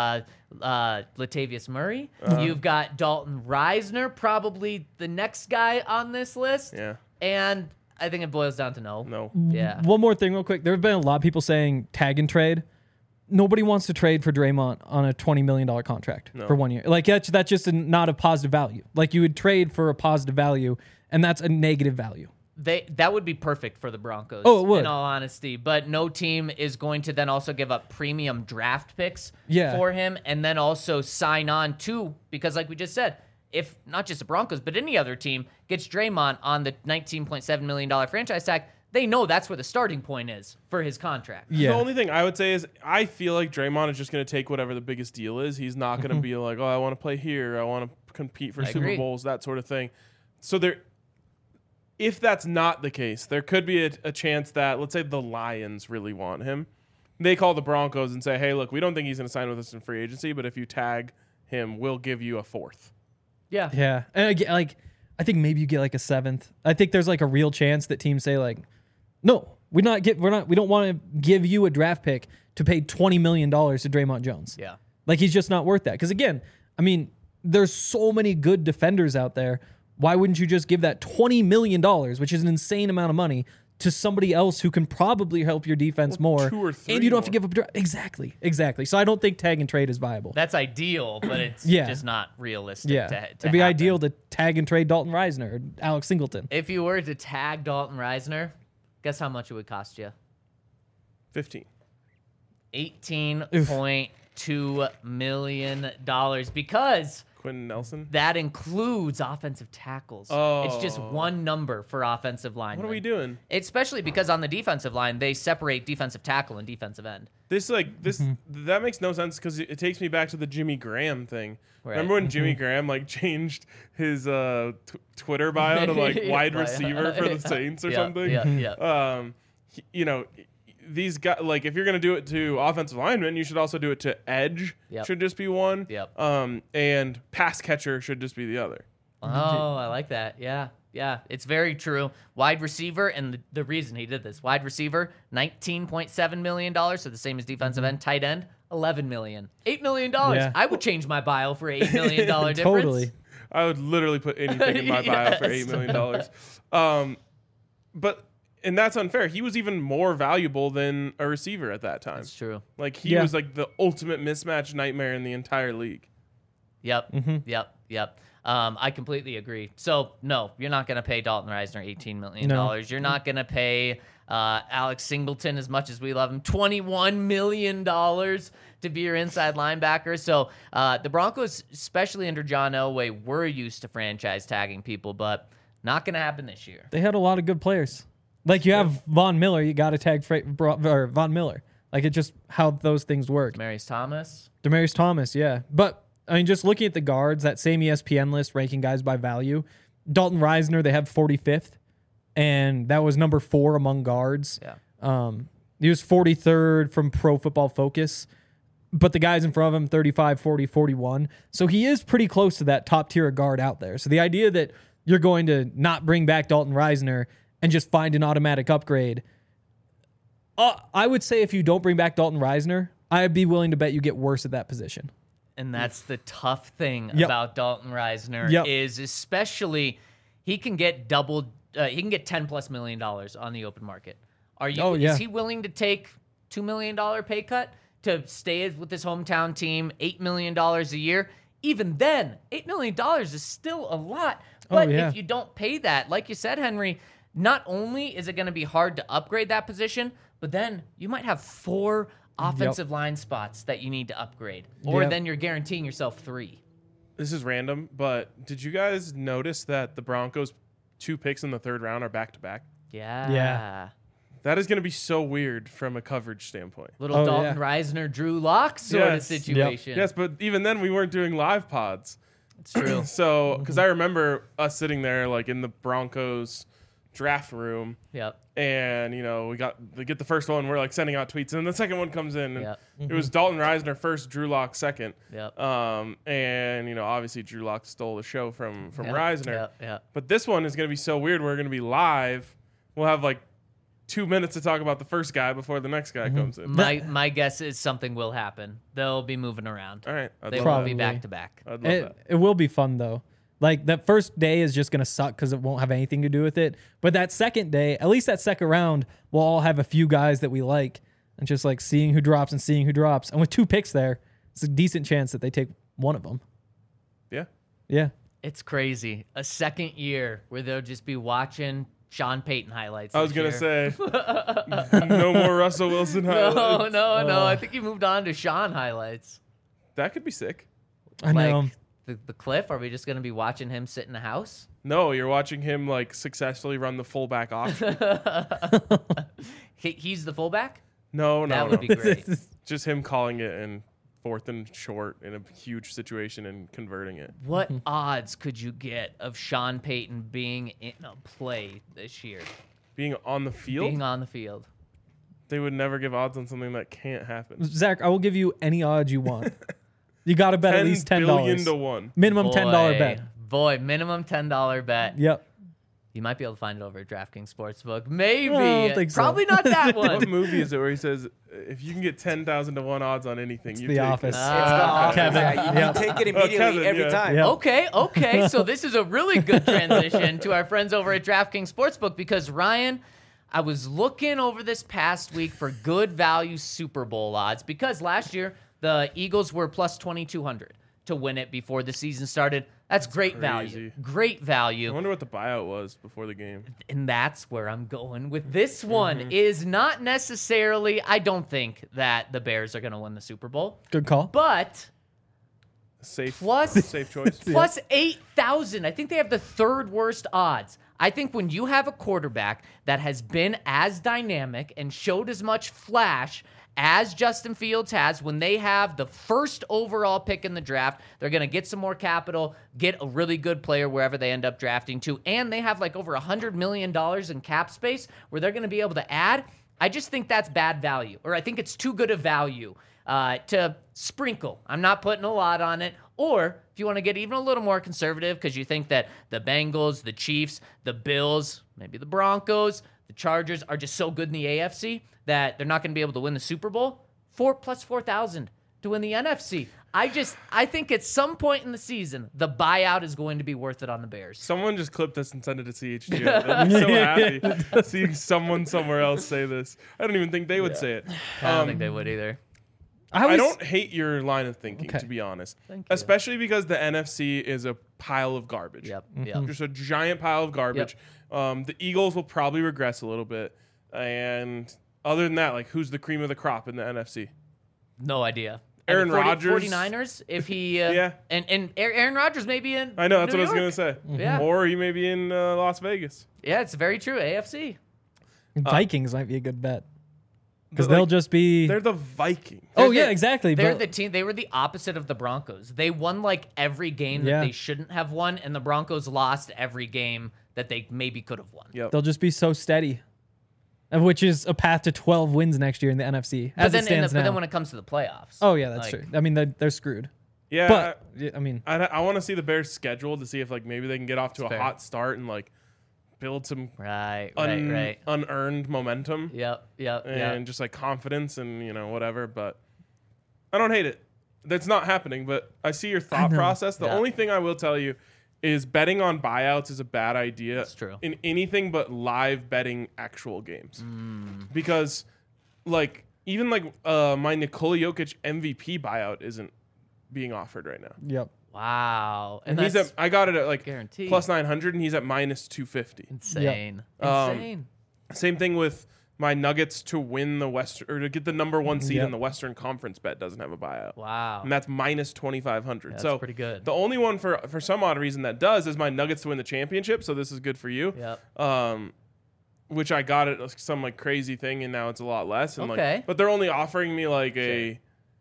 Latavius Murray. You've got Dalton Reisner, probably the next guy on this list. Yeah. And I think it boils down to no. No. Yeah. One more thing real quick. There have been a lot of people saying tag and trade. Nobody wants to trade for Draymond on a $20 million contract for 1 year. Like that's just not a positive value. Like you would trade for a positive value, and that's a negative value. That would be perfect for the Broncos. Oh, it would. In all honesty, but no team is going to then also give up premium draft picks Yeah. for him, and then also sign on to, because like we just said, if not just the Broncos but any other team gets Draymond on the $19.7 million franchise tag, they know that's where the starting point is for his contract. Yeah. The only thing I would say is I feel like Draymond is just going to take whatever the biggest deal is. He's not going to be like, oh, I want to play here. I want to compete for I Super agree. Bowls, that sort of thing. So if that's not the case, there could be a chance that, let's say the Lions really want him. They call the Broncos and say, hey, look, we don't think he's going to sign with us in free agency, but if you tag him, we'll give you a 4th. Yeah. Yeah. And again, like I think maybe you get like a 7th. I think there's like a real chance that teams say like, no, we don't want to give you a draft pick to pay $20 million to Draymond Jones. Yeah. Like he's just not worth that. Because again, I mean, there's so many good defenders out there. Why wouldn't you just give that $20 million, which is an insane amount of money, to somebody else who can probably help your defense more? 2 or 3 and you don't have to more. give up exactly. So I don't think tag and trade is viable. That's ideal, but it's Yeah. just not realistic Yeah, to it'd be happen. ideal to tag and trade Dalton Reisner or Alex Singleton. If you were to tag Dalton Reisner, guess how much it would cost you? 15. $18.2 million, because Quentin Nelson. That includes offensive tackles. It's just one number for offensive line. What are we doing? Especially because on the defensive line, they separate defensive tackle and defensive end. That makes no sense because it takes me back to the Jimmy Graham thing. Right. Remember when Jimmy Graham changed his Twitter bio to wide receiver for the Saints or something? Yeah. These guys, if you're gonna do it to offensive linemen, you should also do it to edge. Yep. Should just be one. Yep. And pass catcher should just be the other. Oh, I like that. Yeah. Yeah, it's very true. Wide receiver, and the reason he did this, wide receiver, $19.7 million, so the same as defensive end. Tight end, $11 million. $8 million. Yeah. I would change my bio for $8 million difference. Totally. I would literally put anything in my bio for $8 million. And that's unfair. He was even more valuable than a receiver at that time. That's true. He was the ultimate mismatch nightmare in the entire league. Yep. Yep. I completely agree. So, no, you're not going to pay Dalton Reisner $18 million. No. You're not going to pay Alex Singleton, as much as we love him, $21 million to be your inside linebacker. So, the Broncos, especially under John Elway, were used to franchise tagging people, but not going to happen this year. They had a lot of good players. You have Von Miller, you got to tag Von Miller. It's just how those things work. Demarius Thomas, yeah. But, just looking at the guards, that same ESPN list ranking guys by value, Dalton Reisner, they have 45th, and that was number 4 among guards. Yeah. He was 43rd from Pro Football Focus, but the guys in front of him, 35, 40, 41. So he is pretty close to that top tier guard out there. So the idea that you're going to not bring back Dalton Reisner and just find an automatic upgrade, I would say if you don't bring back Dalton Reisner, I'd be willing to bet you get worse at that position. And that's the tough thing Yep. about Dalton Reisner Yep. is especially he can get $10+ million on the open market. Is he willing to take $2 million pay cut to stay with his hometown team, $8 million a year? Even then, $8 million is still a lot. But if you don't pay that, like you said, Henry, not only is it going to be hard to upgrade that position, but then you might have 4 offensive line spots that you need to upgrade. Or then you're guaranteeing yourself 3. This is random, but did you guys notice that the Broncos' 2 picks in the 3rd round are back-to-back? Yeah. That is going to be so weird from a coverage standpoint. Little Dalton Reisner, Drew Lock sort of situation. Yes, but even then we weren't doing live pods. It's true. So, because I remember us sitting there in the Broncos draft room. Yep. And, we get the first one, we're sending out tweets, and then the second one comes in. And Yep. It was Dalton Reisner first, Drew Lock second. Yep. And, obviously Drew Lock stole the show from Reisner. Yep. But this one is going to be so weird. We're going to be live. We'll have 2 minutes to talk about the first guy before the next guy comes in. My guess is something will happen. They'll be moving around. All right. They love will that. be back to back. I'd love that. It will be fun, though. That first day is just going to suck because it won't have anything to do with it. But that second day, at least that second round, we'll all have a few guys that we like. And just seeing who drops and seeing who drops. And with 2 picks there, it's a decent chance that they take one of them. Yeah. Yeah. It's crazy. A second year where they'll just be watching Sean Payton highlights. I was going to say, no more Russell Wilson highlights. No. I think he moved on to Sean highlights. That could be sick. I know. The Cliff, are we just going to be watching him sit in a house? No, you're watching him He's successfully run the fullback option. He's the fullback? No. That would be great. Just him calling it in 4th and short in a huge situation and converting it. What odds could you get of Sean Payton being in a play this year? Being on the field? Being on the field. They would never give odds on something that can't happen. Zach, I will give you any odds you want. You got to bet at least $10. $10 billion to 1. Minimum $10 bet. Boy, minimum $10 bet. Yep. You might be able to find it over at DraftKings Sportsbook. Maybe. I don't think so. Probably not that What one. movie is it where he says, if you can get 10,000 to 1 odds on anything, you The take Office. it? It's the office. Kevin. Yeah, you take it immediately Kevin, every yeah. time. Yeah. Okay. So this is a really good transition to our friends over at DraftKings Sportsbook because, Ryan, I was looking over this past week for good value Super Bowl odds because last year the Eagles were plus 2,200 to win it before the season started. That's great value. crazy. Great I value. wonder what the buyout was before the game. And that's where I'm going with this one is not necessarily, I don't think that the Bears are going to win the Super Bowl, Good call. but safe Plus- safe choice. Plus 8,000. I think they have the third worst odds. I think when you have a quarterback that has been as dynamic and showed as much flash as Justin Fields has, when they have the first overall pick in the draft, they're going to get some more capital, get a really good player wherever they end up drafting to, and they have like over $100 million in cap space where they're going to be able to add. I just think that's bad value, or I think it's too good a value to sprinkle. I'm not putting a lot on it. Or if you want to get even a little more conservative because you think that the Bengals, the Chiefs, the Bills, maybe the Broncos, the Chargers are just so good in the AFC that they're not going to be able to win the Super Bowl, 4,000+ to win the NFC. I think at some point in the season, the buyout is going to be worth it on the Bears. Someone just clip this and send it to CHGO. They'll be so happy seeing someone somewhere else say this. I don't even think they would say it. I don't think they would either. I don't hate your line of thinking, Okay. to be honest. Thank you. Especially because the NFC is a pile of garbage. Yep. Just a giant pile of garbage. The Eagles will probably regress a little bit. And other than that, like, who's the cream of the crop in the NFC? No idea. Aaron And the Rodgers. 49ers, if he... Yeah. And Aaron Rodgers may be in I know, that's New what I was York. going to say. Yeah. Or he may be in Las Vegas. Yeah, it's very true. AFC. Vikings might be a good bet because But, they'll like, just be. They're the Vikings. Oh They're yeah, the- exactly. They're but- the team. They were the opposite of the Broncos. They won like every game Yeah. that they shouldn't have won, and the Broncos lost every game that they maybe could have won. Yep. They'll just be so steady, which is a path to 12 wins next year in the NFC But as then, it stands but now. then when it comes to the playoffs, Oh yeah, that's like, true. I mean, they're screwed. Yeah. But I mean, I want to see the Bears' schedule to see if like maybe they can get off to a fair. hot start and like build some Right. unearned momentum Yep. and just like confidence and whatever. But I don't hate it. That's not happening. But I see your thought know. process. The Yeah. only thing I will tell you is betting on buyouts is a bad idea. That's true. In anything but live betting actual games, Mm. because like even like my Nikola Jokic MVP buyout isn't being offered right now. yep. Wow. And that's he's at, I got it at like guaranteed. plus 900 and he's at minus 250. insane. Um, Insane. Same thing with my Nuggets to win the Western or to get the number 1 seed Yep. in the Western Conference bet doesn't have a buyout. Wow. And that's minus 2,500. That's So pretty good. the only one for some odd reason that does is my Nuggets to win the championship. So this is good for you. Yep. Which I got at some like crazy thing and now it's a lot less. And Okay. like, but they're only offering me like a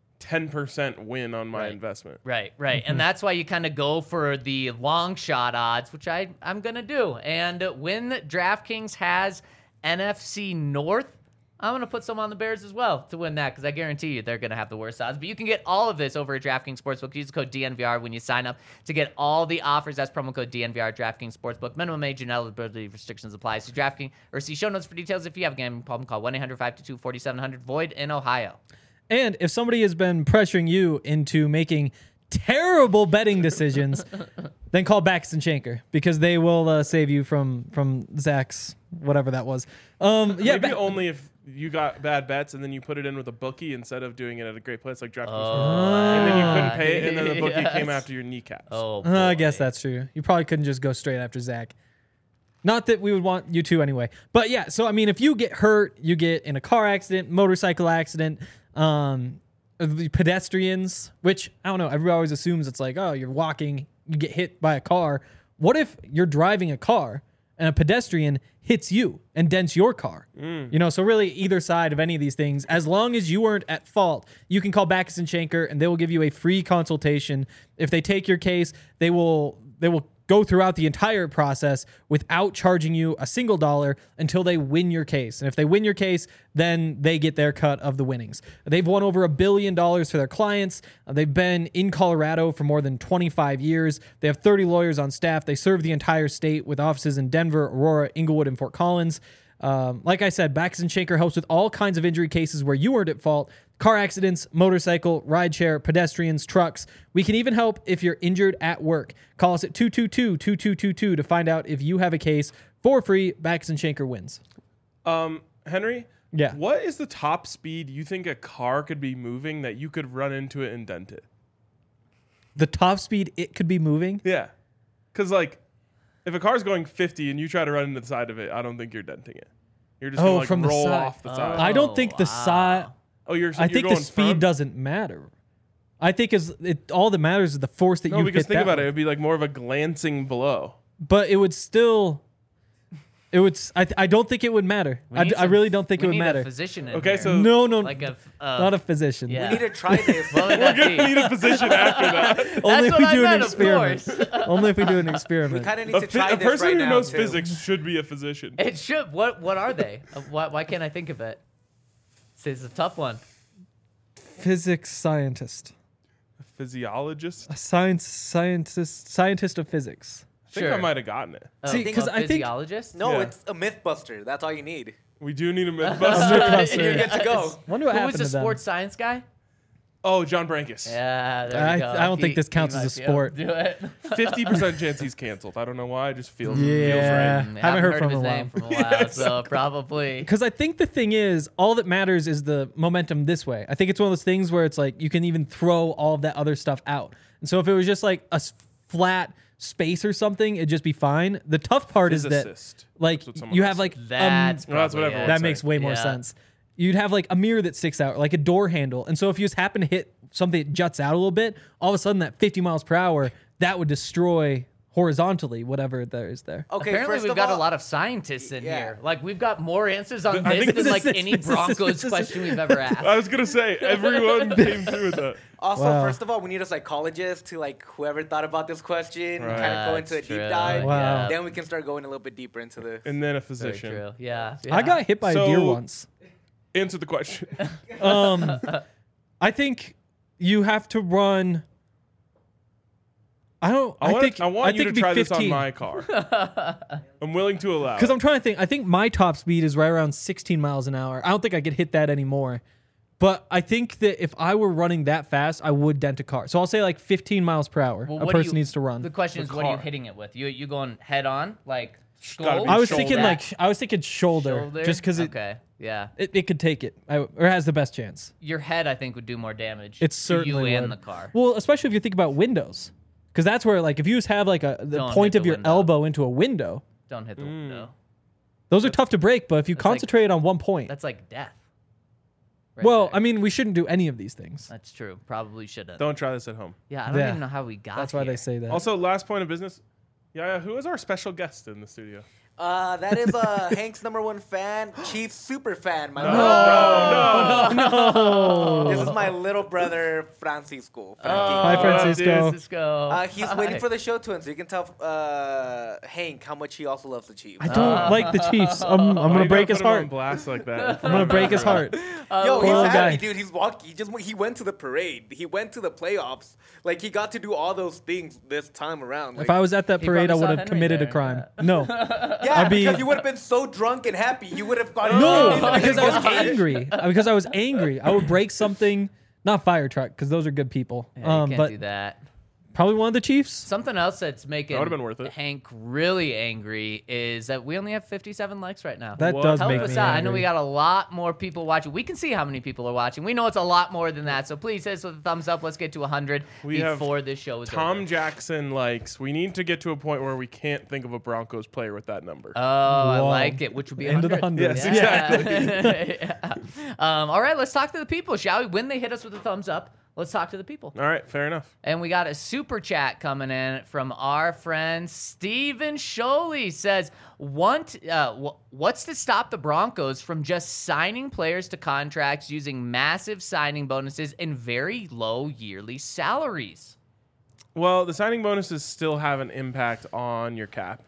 10% win on my Right. investment. Right. And that's why you kind of go for the long shot odds, which I'm going to do. And when DraftKings has NFC North, I'm going to put some on the Bears as well to win that because I guarantee you they're going to have the worst odds. But you can get all of this over at DraftKings Sportsbook. Use the code DNVR when you sign up to get all the offers. That's promo code DNVR, DraftKings Sportsbook. Minimum age and eligibility restrictions apply. See DraftKings or see show notes for details. If you have a gambling problem, call 1-800-522-4700. Void in Ohio. And if somebody has been pressuring you into making terrible betting decisions, then call Baxton Shanker because they will save you from Zach's whatever that was. Yeah, Maybe only if you got bad bets and then you put it in with a bookie instead of doing it at a great place like DraftKings. And then you couldn't pay it, and then the bookie came Yes. after your kneecaps. Oh, I boy. guess that's true. You probably couldn't just go straight after Zach. Not that we would want you to anyway. But yeah, so I mean, if you get hurt, you get in a car accident, motorcycle accident, the pedestrians, which I don't know, everybody always assumes it's like, oh, you're walking, you get hit by a car. What if you're driving a car and a pedestrian hits you and dents your car? So really either side of any of these things, as long as you weren't at fault, you can call Baxton Shanker and they will give you a free consultation. If they take your case, they will go throughout the entire process without charging you a single dollar until they win your case. And if they win your case, then they get their cut of the winnings. They've won over $1 billion for their clients. They've been in Colorado for more than 25 years. They have 30 lawyers on staff. They serve the entire state with offices in Denver, Aurora, Inglewood, and Fort Collins. Like I said, Baxton Shanker helps with all kinds of injury cases where you weren't at fault. Car accidents, motorcycle, rideshare, pedestrians, trucks. We can even help if you're injured at work. Call us at 222-2222 to find out if you have a case for free. Baxton Shanker wins. Henry? Yeah. What is the top speed you think a car could be moving that you could run into it and dent it? The top speed it could be moving. Yeah. Because, like, if a car's going 50 and you try to run into the side of it, I don't think you're denting it. You're just going to, like, from the roll side. off the side. I don't think the side. Oh, you're I you're think the going speed firm? doesn't matter. I think all that matters is the force that No, you because hit think that about it. with. It'd be like more of a glancing blow. But it would still. It would. I don't think it would matter. I really don't think it would We need matter. a physician in Okay, here. so No, like a not a physician. yeah. We need to try this. What would that we're be? gonna need a physician after that. Only if That's we what I do an meant, of experiment. course. Only if we do an We experiment. kind of need to try A this person right who now, knows too. physics should be a physician. It should. What are they? Why can't I think of it? It's a tough one. Physics scientist. A physiologist. A scientist of physics. I think I might have gotten it. See, 'cause I think- physiologist. No, Yeah. it's a Mythbuster. That's all you need. We do need a Mythbuster. Mythbuster. And you're good to go. Wonder what Who happened was the to them. sports science guy? Oh, John Brankus. Yeah, there I- you go. I don't think this counts he as a might be able sport. to Do it. 50% chance he's canceled. I don't know why. It just feels Yeah. feels right. Haven't heard of from his him in a name from a while, so probably. Because I think the thing is, all that matters is the momentum this way. I think it's one of those things where it's like you can even throw all of that other stuff out. And so if it was just like a flat space or something, it'd just be fine. The tough part is that, Physicist. like, That's what someone you else have like That's Well, that's what probably everyone it. that say. makes way more Yeah. sense. You'd have like a mirror that sticks out, like a door handle. And so if you just happen to hit something that juts out a little bit, all of a sudden that 50 miles per hour, that would destroy horizontally whatever there is there. Okay, Apparently, first we've of got all, a lot of scientists in Yeah. here. Like, we've got more answers on I this think than like this is- any Broncos question we've ever asked. I was gonna say everyone came through with that. Also, Wow. first of all, we need a psychologist to like whoever thought about this question, Right. kind of go into a That's deep true. dive. Wow. Then we can start going a little bit deeper into the. And then a Very physician. true. Yeah. I got hit by a deer So- once. Answer the question. I think you have to run. I want think you I to think it'd be try this on 15. my car. I'm willing to allow. Because it. I'm trying to think. I think my top speed is right around 16 miles an hour. I don't think I could hit that anymore. But I think that if I were running that fast, I would dent a car. So I'll say like 15 miles per hour. Well, a what do person you- needs to run. The question The is, what are you car. hitting it with? You going head on, like gotta skull? be I was shoulder. thinking like I was thinking shoulder, shoulder, just because Okay. Yeah. it could take it or has the best chance. Your head, I think, would do more damage. It to certainly you and would. the car. Well, especially if you think about windows, because that's where like if you just have like the Don't point hit of the your window. elbow into a window, Don't hit the window. those are tough to break. But if you That's like- concentrate on one point, That's like death. Right well, there. I mean, we shouldn't do any of these things. That's true. Probably shouldn't. Don't try this at home. Yeah, I don't Yeah. even know how we got. That's why here. they say that. Also, last point of business. Yeah, who is our special guest in the studio? That is Hank's #1 fan, Chiefs super fan. My no. This is my little brother Francisco. Hi, Francisco. Francisco. He's waiting for the show to end, so you can tell Hank how much he also loves the Chiefs. I don't like the Chiefs. I'm Why gonna you break gotta his put him on heart. blast like that. I'm gonna break his heart. Yo, poor little he's happy, guy. dude. He's walking. He went to the parade. He went to the playoffs. Like he got to do all those things this time around. Like, If I was at that He parade, I probably would saw have Henry committed a there. crime. No, yeah, I'd be- because you would have been so drunk and happy. You would have gone. no, Oh, because I was God. angry. Because I was angry. I would break something. Not fire truck, because those are good people. Yeah, you can't but do that. probably one of the Chiefs. Something else that's making would've been worth it. Hank really angry is that we only have 57 likes right now. That What? does Help make us me out. angry. I know we got a lot more people watching. We can see how many people are watching. We know it's a lot more than that. So please hit us with a thumbs up. Let's get to 100 We have before this show is Tom over. Jackson likes. We need to get to a point where we can't think of a Broncos player with that number. Oh, I Whoa. like it, which would be End of the 100. hundreds. Yes, Yeah. All right, let's talk to the people, shall we? When they hit us with a thumbs up, let's talk to the people. All right, fair enough. And we got a super chat coming in from our friend Steven Sholey. Says, what's to stop the Broncos from just signing players to contracts using massive signing bonuses and very low yearly salaries? Well, the signing bonuses still have an impact on your cap.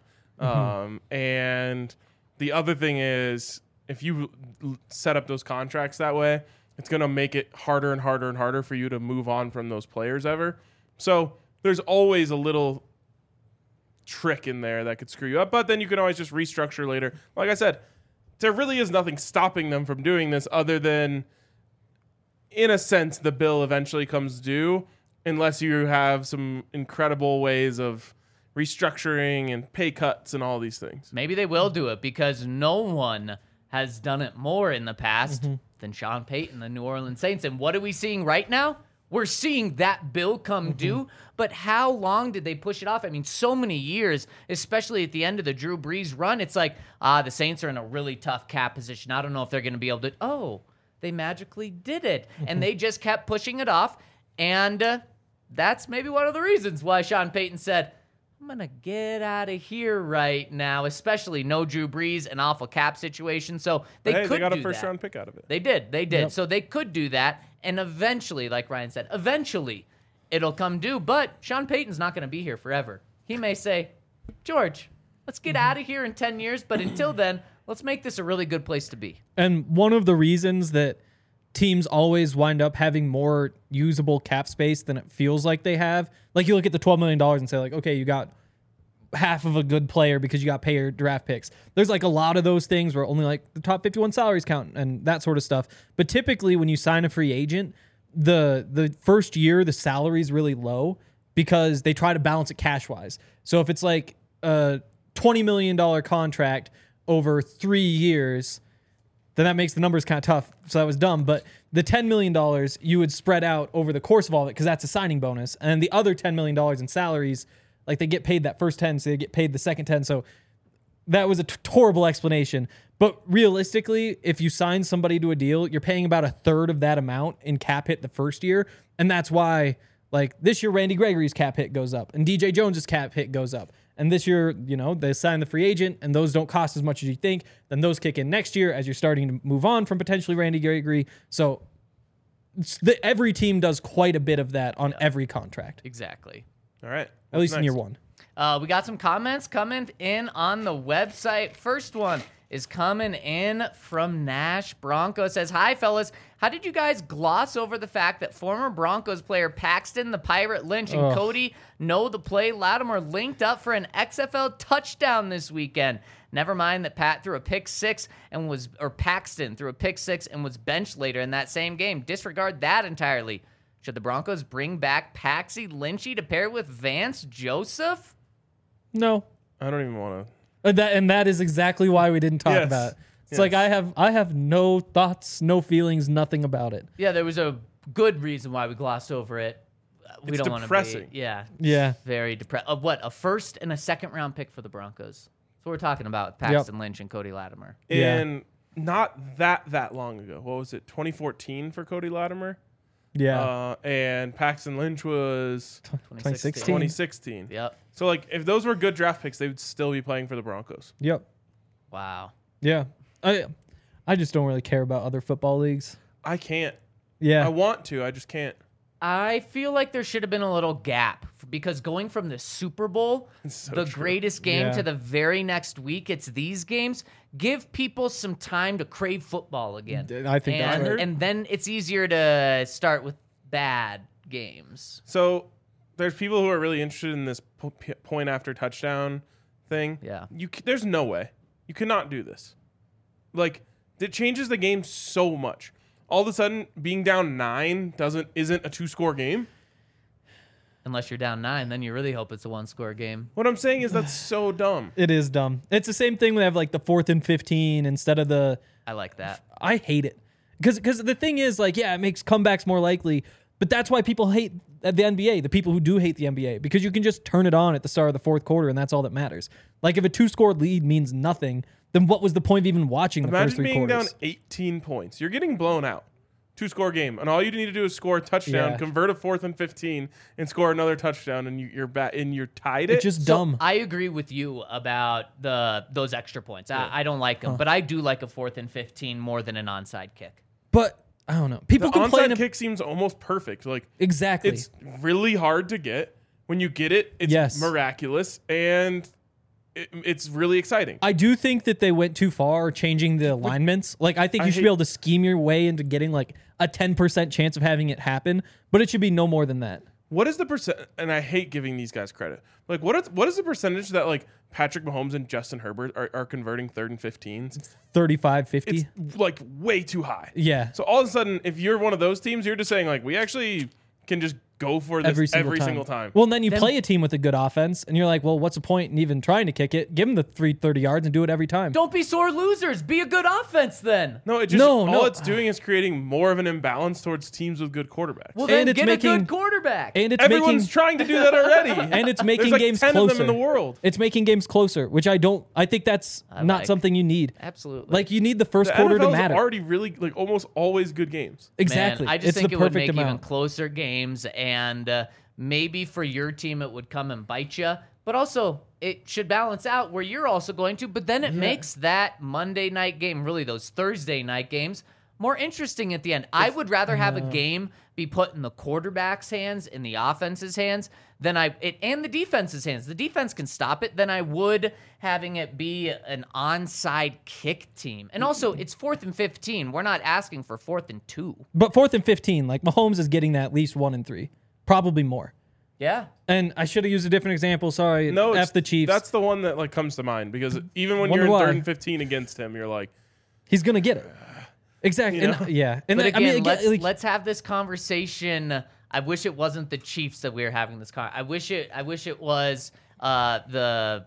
And the other thing is, if you set up those contracts that way, it's going to make it harder and harder and harder for you to move on from those players ever. So there's always a little trick in there that could screw you up, but then you can always just restructure later. Like I said, there really is nothing stopping them from doing this other than, in a sense, the bill eventually comes due unless you have some incredible ways of restructuring and pay cuts and all these things. Maybe they will do it because no one has done it more in the past than Sean Payton, the New Orleans Saints. And what are we seeing right now? We're seeing that bill come due, but how long did they push it off? I mean, so many years, especially at the end of the Drew Brees run. It's like, the Saints are in a really tough cap position. I don't know if they're going to be able to. Oh, they magically did it. And they just kept pushing it off. And that's maybe one of the reasons why Sean Payton said, I'm going to get out of here right now, especially no Drew Brees, an awful cap situation. So they Hey, could they got do a first that. round pick out of it. They did. Yep. So they could do that. And eventually, like Ryan said, eventually it'll come due. But Sean Payton's not going to be here forever. He may say, George, let's get out of here in 10 years. But until then, let's make this a really good place to be. And one of the reasons that teams always wind up having more usable cap space than it feels like they have, like you look at the $12 million and say like, okay, you got half of a good player because you got paid draft picks. There's like a lot of those things where only like the top 51 salaries count and that sort of stuff. But typically when you sign a free agent, the first year, the salary is really low because they try to balance it cash wise. So if it's like a $20 million contract over 3 years, then that makes the numbers kind of tough. So that was dumb. But the $10 million you would spread out over the course of all of it because that's a signing bonus. And the other $10 million in salaries, like they get paid that first 10, so they get paid the second 10. So that was a horrible explanation. But realistically, if you sign somebody to a deal, you're paying about a third of that amount in cap hit the first year. And that's why, like this year, Randy Gregory's cap hit goes up and DJ Jones's cap hit goes up. And this year, you know, they sign the free agent and those don't cost as much as you think. Then those kick in next year as you're starting to move on from potentially Randy Gregory. So every team does quite a bit of that on every contract, Exactly. All right. at least in next? year one. We got some comments coming in on the website. First one is coming in from Nash Bronco. It says, hi, fellas. How did you guys gloss over the fact that former Broncos player Paxton, the Pirate Lynch, and Cody know the play Lattimore linked up for an XFL touchdown this weekend? Never mind that Paxton threw a pick six and was benched later in that same game. Disregard that entirely. Should the Broncos bring back Paxi Lynchy to pair with Vance Joseph? No. I don't even want to. And that is exactly why we didn't talk Yes. about it. It's Yes. like I have no thoughts, no feelings, nothing about it. Yeah, there was a good reason why we glossed over it. We It's don't want to depressing. be. Yeah. Yeah. Very depressed. What, a first and a second round pick for the Broncos? That's what we're talking about with Paxton Lynch and Cody Latimer. Yeah. And not that long ago. What was it? 2014 for Cody Latimer? Yeah. And Paxton Lynch was 2016. 2016. Yep. So, like, if those were good draft picks, they would still be playing for the Broncos. Yep. Wow. Yeah. I just don't really care about other football leagues. I can't. Yeah. I want to. I just can't. I feel like there should have been a little gap because going from the Super Bowl, so the true. greatest game, Yeah. to the very next week, it's these games. Give people some time to crave football again. I think that's and, right. and then it's easier to start with bad games. So, there's people who are really interested in this point after touchdown thing. Yeah. There's no way. You cannot do this. Like, it changes the game so much. All of a sudden, being down 9 isn't a 2-score game. Unless you're down 9, then you really hope it's a 1-score game. What I'm saying is that's so dumb. It is dumb. It's the same thing when they have like the 4th and 15 instead of the. I like that. I hate it because the thing is like, yeah, it makes comebacks more likely, but that's why people hate the NBA. The people who do hate the NBA, because you can just turn it on at the start of the fourth quarter and that's all that matters. Like if a 2-score lead means nothing, then what was the point of even watching the first Imagine 3 being quarters? down 18 points. You're getting blown out. 2-score game, and all you need to do is score a touchdown, Yeah. convert a 4th and 15, and score another touchdown, and you're back and you're tied. It's just dumb. I agree with you about those extra points. I don't like them, but I do like a 4th and 15 more than an onside kick. But I don't know. People the complain. onside kick seems almost perfect. Like Exactly. it's really hard to get. When you get it, it's Yes. miraculous, and it's really exciting. I do think that they went too far changing the alignments. Like, I think you should be able to scheme your way into getting like a 10% chance of having it happen, but it should be no more than that. What is the percent? And I hate giving these guys credit. Like, what is the percentage that like Patrick Mahomes and Justin Herbert are converting 3rd and 15s? 35, 50. It's like way too high. Yeah. So all of a sudden, if you're one of those teams, you're just saying like, we actually can just go for this every single time. Well, and then you play a team with a good offense, and you're like, well, what's the point in even trying to kick it? Give them the 330 yards and do it every time. Don't be sore losers. Be a good offense then. No, it just all it's doing is creating more of an imbalance towards teams with good quarterbacks. Well, then get a good quarterback. And it's everyone's trying to do that already. And it's making There's games 10 closer. of them in the world. It's making games closer, which I think that's not something you need. Absolutely. Like you need the first The quarter to NFL's matter. already really like almost always good games. Exactly. Man, I just it's think the it would perfect make even amount. closer games, and maybe for your team it would come and bite you. But also, it should balance out where you're also going to. But then it makes that Monday night game, really those Thursday night games, more interesting at the end. I would rather have a game be put in the quarterback's hands, in the offense's hands, and the defense's hands. The defense can stop it than I would having it be an onside kick team. And also, it's 4th and 15. We're not asking for 4th and 2. But 4th and 15, like Mahomes is getting that at least 1 and 3, probably more. Yeah. And I should have used a different example. Sorry. No, F the Chiefs. That's the one that like comes to mind because even when Wonder you're in why. 3rd and 15 against him, you're like, He's gonna get it. Exactly. You know? And, yeah. And But then, again, I mean, let's have this conversation. I wish it wasn't the Chiefs that we were having this I wish it was the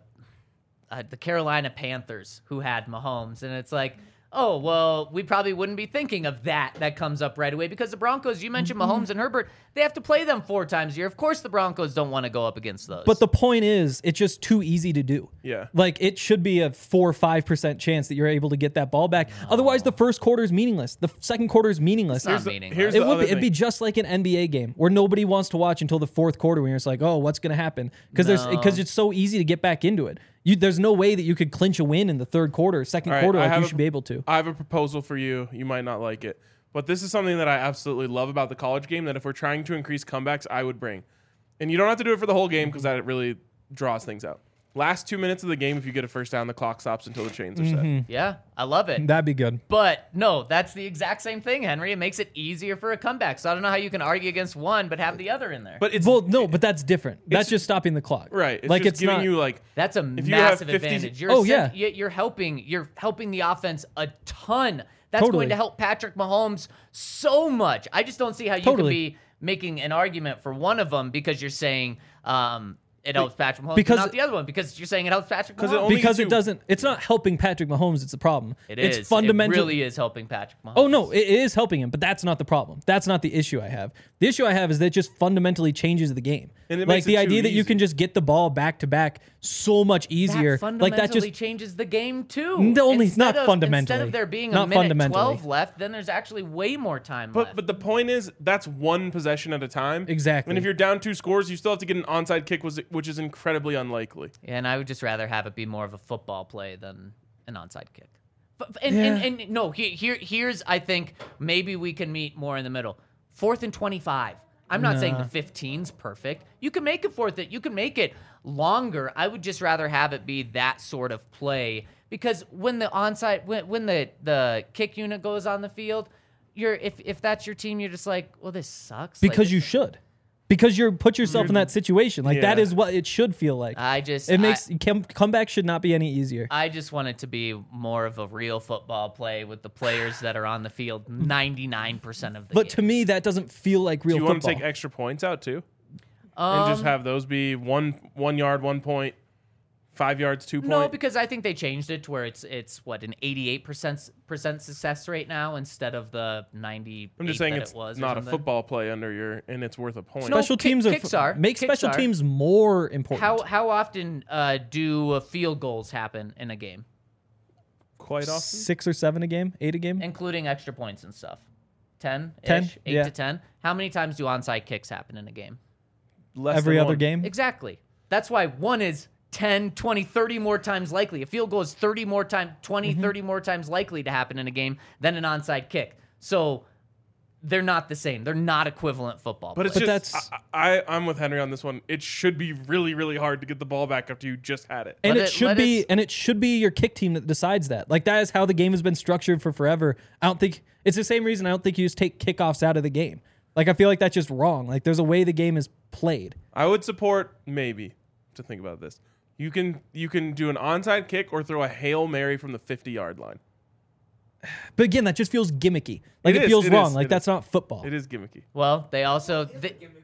Carolina Panthers who had Mahomes, and it's like, oh, well, we probably wouldn't be thinking of that comes up right away because the Broncos, you mentioned Mahomes and Herbert, they have to play them 4 times a year. Of course the Broncos don't want to go up against those. But the point is, it's just too easy to do. Yeah. Like, it should be a 4 or 5% chance that you're able to get that ball back. Otherwise, the first quarter is meaningless. The second quarter is meaningless. It's not meaningless. here's It the would other be. It'd be thing. just like an NBA game where nobody wants to watch until the fourth quarter when you're just like, oh, what's going to happen? Because it's so easy to get back into it. There's no way that you could clinch a win in the third quarter, second All right, quarter, I like have you a- should be able to. I have a proposal for you. You might not like it, but this is something that I absolutely love about the college game that if we're trying to increase comebacks, I would bring. And you don't have to do it for the whole game because that really draws things out. Last 2 minutes of the game, if you get a first down, the clock stops until the chains are set. yeah, I love it. That'd be good. But no, that's the exact same thing, Henry. It makes it easier for a comeback. So I don't know how you can argue against one but have the other in there. But it's But that's different. That's just stopping the clock. right. It's like just it's giving not, you like That's a If you have massive 50 advantage. You're helping the offense a ton. That's Totally. going to help Patrick Mahomes so much. I just don't see how you Totally. can be making an argument for one of them because you're saying it helps Patrick Mahomes, Because- but not the other one because you're saying it helps Patrick 'Cause it Mahomes. only because gives it you- doesn't. It's not helping Patrick Mahomes. It's the problem. It's It's fundamentally. It really is helping Patrick Mahomes. Oh no, it is helping him, but that's not the problem. That's not the issue I have. The issue I have is that it just fundamentally changes the game. And it like makes the it too idea that you easy. can just get the ball back to back so much easier. That fundamentally Like that just changes the game too. No, only- Instead not of- fundamentally. Instead of there being Not a minute fundamentally. 12 left, then there's actually way more time left. But the point is, that's one possession at a time. Exactly. And if you're down 2 scores, you still have to get an onside kick, which is incredibly unlikely. And I would just rather have it be more of a football play than an onside kick. Here's I think maybe we can meet more in the middle. 4th and 25. I'm not saying the 15's perfect. You can make it you can make it longer. I would just rather have it be that sort of play because when the onside when the kick unit goes on the field, if that's your team, you're just like, well, this sucks. because you should. Because you put yourself in that situation. Like that Yeah. is what it should feel like. It makes comeback should not be any easier. I just want it to be more of a real football play with the players that are on the field 99% of the But game. to me, that doesn't feel like real Do you want football. to take extra points out too? And just have those be 1 yard, 1 point, 5 yards, 2 point? No, because I think they changed it to where it's what an 88% success rate now instead of the 90. I'm just saying that it's it was or not a something. football play and it's worth a point. No, Special teams kicks are. make Kicks special are. teams more important. How often do field goals happen in a game, Quite often. 6 or 7 a game, 8 a game. including extra points and stuff? 10, 10, 8 yeah. to 10. How many times do onside kicks happen in a game? Less Every than other one. game. Exactly. That's why one is 10, 20, 30 more times likely. A field goal is 30 more times, 20, 30 more times likely to happen in a game than an onside kick. So they're not the same. They're not equivalent football But it's plays. just, I'm with Henry on this one. It should be really, really hard to get the ball back after you just had it. And Let it should let be us- and it should be your kick team that decides that. Like that is how the game has been structured for forever. I don't think it's the same reason I don't think you just take kickoffs out of the game. Like I feel like that's just wrong. Like there's a way the game is played. I would support maybe to think about this. You can do an onside kick or throw a Hail Mary from the 50-yard line. But again, that just feels gimmicky. Like It it is, feels it wrong. is, Like it that's not football. It is gimmicky. Well, they also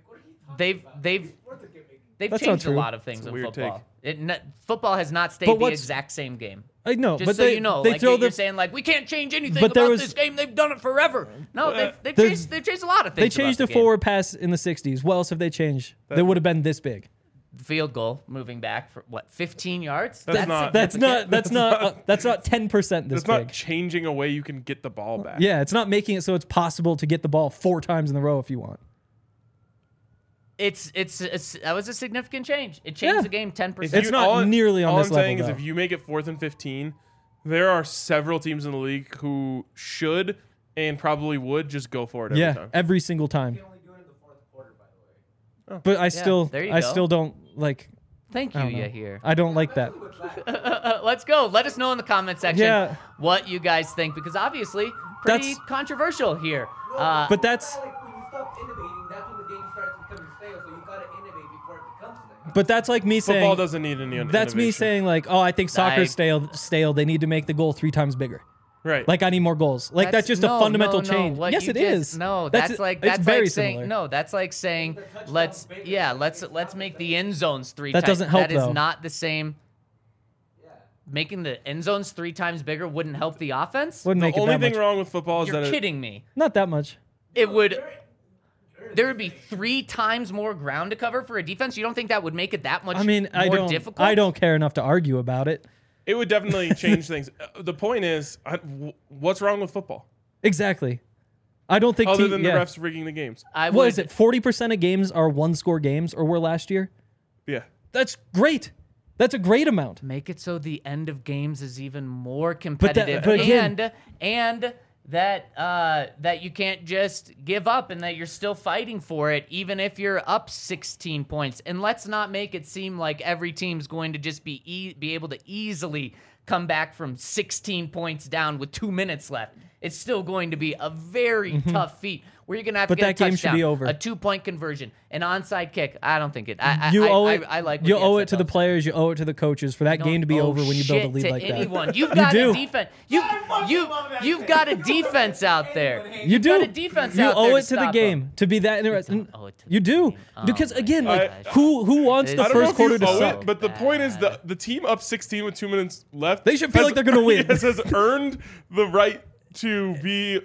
they've That's not changed a true. lot of things It's a in weird football. Football has not stayed But the what's- exact same game. I know, Just but so they, you know, they like throw you're the saying, like we can't change anything But there about was- this game. They've done it forever. No, they've There's- changed a lot of they things. changed about the game. forward pass in the '60s. What else have they changed? They would have been this big. Field goal moving back for what 15 yards. That's not- That's significant. not 10% this It's not big. changing a way you can get the ball back. Yeah, it's not making it so it's possible to get the ball 4 times in a row if you want. It's that was a significant change. It changed Yeah. the game 10%. It's not nearly on all this I'm saying level, is though. if you make it 4th and 15, there are several teams in the league who should and probably would just go for it every Yeah, time. every single time. only do it in the fourth quarter, by the way. But I still there you I go. still don't like Thank you, I don't know. Yahir. I don't like that. Let's go. Let us know in the comment section Yeah. what you guys think, because obviously pretty That's- controversial here. But that's Like when you stop innovating, that's when the game starts becoming stale. So you gotta innovate before it becomes stale. but that's like me Football saying doesn't need any that's me innovation. saying like, "Oh, I think soccer's I- stale. They need to make the goal 3 times bigger." Right. Like I need more goals. Like that's just no, a fundamental no, change. What Yes, you it just- is. No, that's it's like very saying similar. no. That's like saying let's make the end zones 3 That times. doesn't help, That is though. not the same. Making the end zones 3 times bigger wouldn't help the offense. Wouldn't make the it only that thing much. wrong with football is You're that kidding me. Not that much. It would. There would be 3 times more ground to cover for a defense. You don't think that would make it that much I mean, more difficult? I don't care enough to argue about it. it would definitely change things. The point is, what's wrong with football Exactly. I don't think other than the yeah. refs rigging the games? I What would, is it? 40% of games are 1-score games or were last year? Yeah. That's great. That's a great amount. Make it so the end of games is even more competitive, but again- and that you can't just give up and that you're still fighting for it even if you're up 16 points. And let's not make it seem like every team's going to just be able to easily come back from 16 points down with 2 minutes left. It's still going to be a very tough feat where you're going to have to But get that a game should touchdown, be over. a 2-point conversion, an onside kick. I don't think it. You owe it. I like what you the owe it to the NFL 's players. You owe it to the coaches for that don't game to be owe over when you build a shit lead to like anyone. that. You've You got do. a defense. You've got a defense out there. You do. Got a defense you out owe there it to the stop game them. to be that interesting. owe it to You the do game. Oh because my again, like gosh. who wants It's the I don't know first if quarter you to owe suck? it, but the point is the team up 16 with 2 minutes left. They should feel like they're gonna win. Has earned the right to be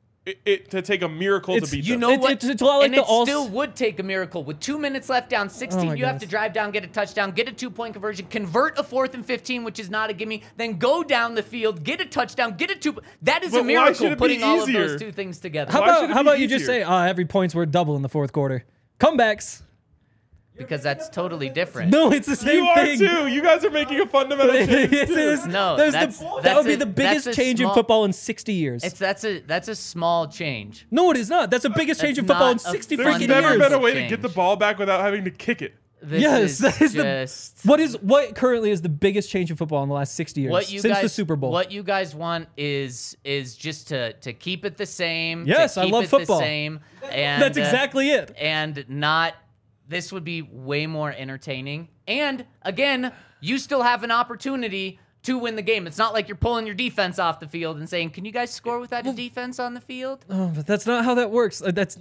to take a miracle It's- to beat You them. know what? It's a lot like and the it all- still would take a miracle. With 2 minutes left down 16, Oh my you have to goodness. drive down, get a touchdown, get a 2-point conversion, convert a 4th and 15, which is not a gimme, then go down the field, get a touchdown, get a 2. That is But a why miracle should it be putting all of easier? those 2 things together. How Why should it about be you just easier? say, every point's worth double in the fourth quarter? Comebacks. Because that's totally different. No, it's the same You are thing. too. You guys are making a fundamental change. It too. is. No, that that's would be a- the biggest that's a change in small- football in 60 years. That's a small change. No, it is not. That's the biggest change in That's football in not a 60 There's freaking never years. been a way to Change. get the ball back without having to kick it. This Yes, is that is just what currently is the biggest change in football in the last 60 years what you since guys the Super Bowl. What you guys want is just to keep it the same. Yes, to I keep love it football. The same, and That's exactly it. And not. This would be way more entertaining. And again, you still have an opportunity to win the game. It's not like you're pulling your defense off the field and saying, "Can you guys score without a defense on the field?" Oh, but that's not how that works. That's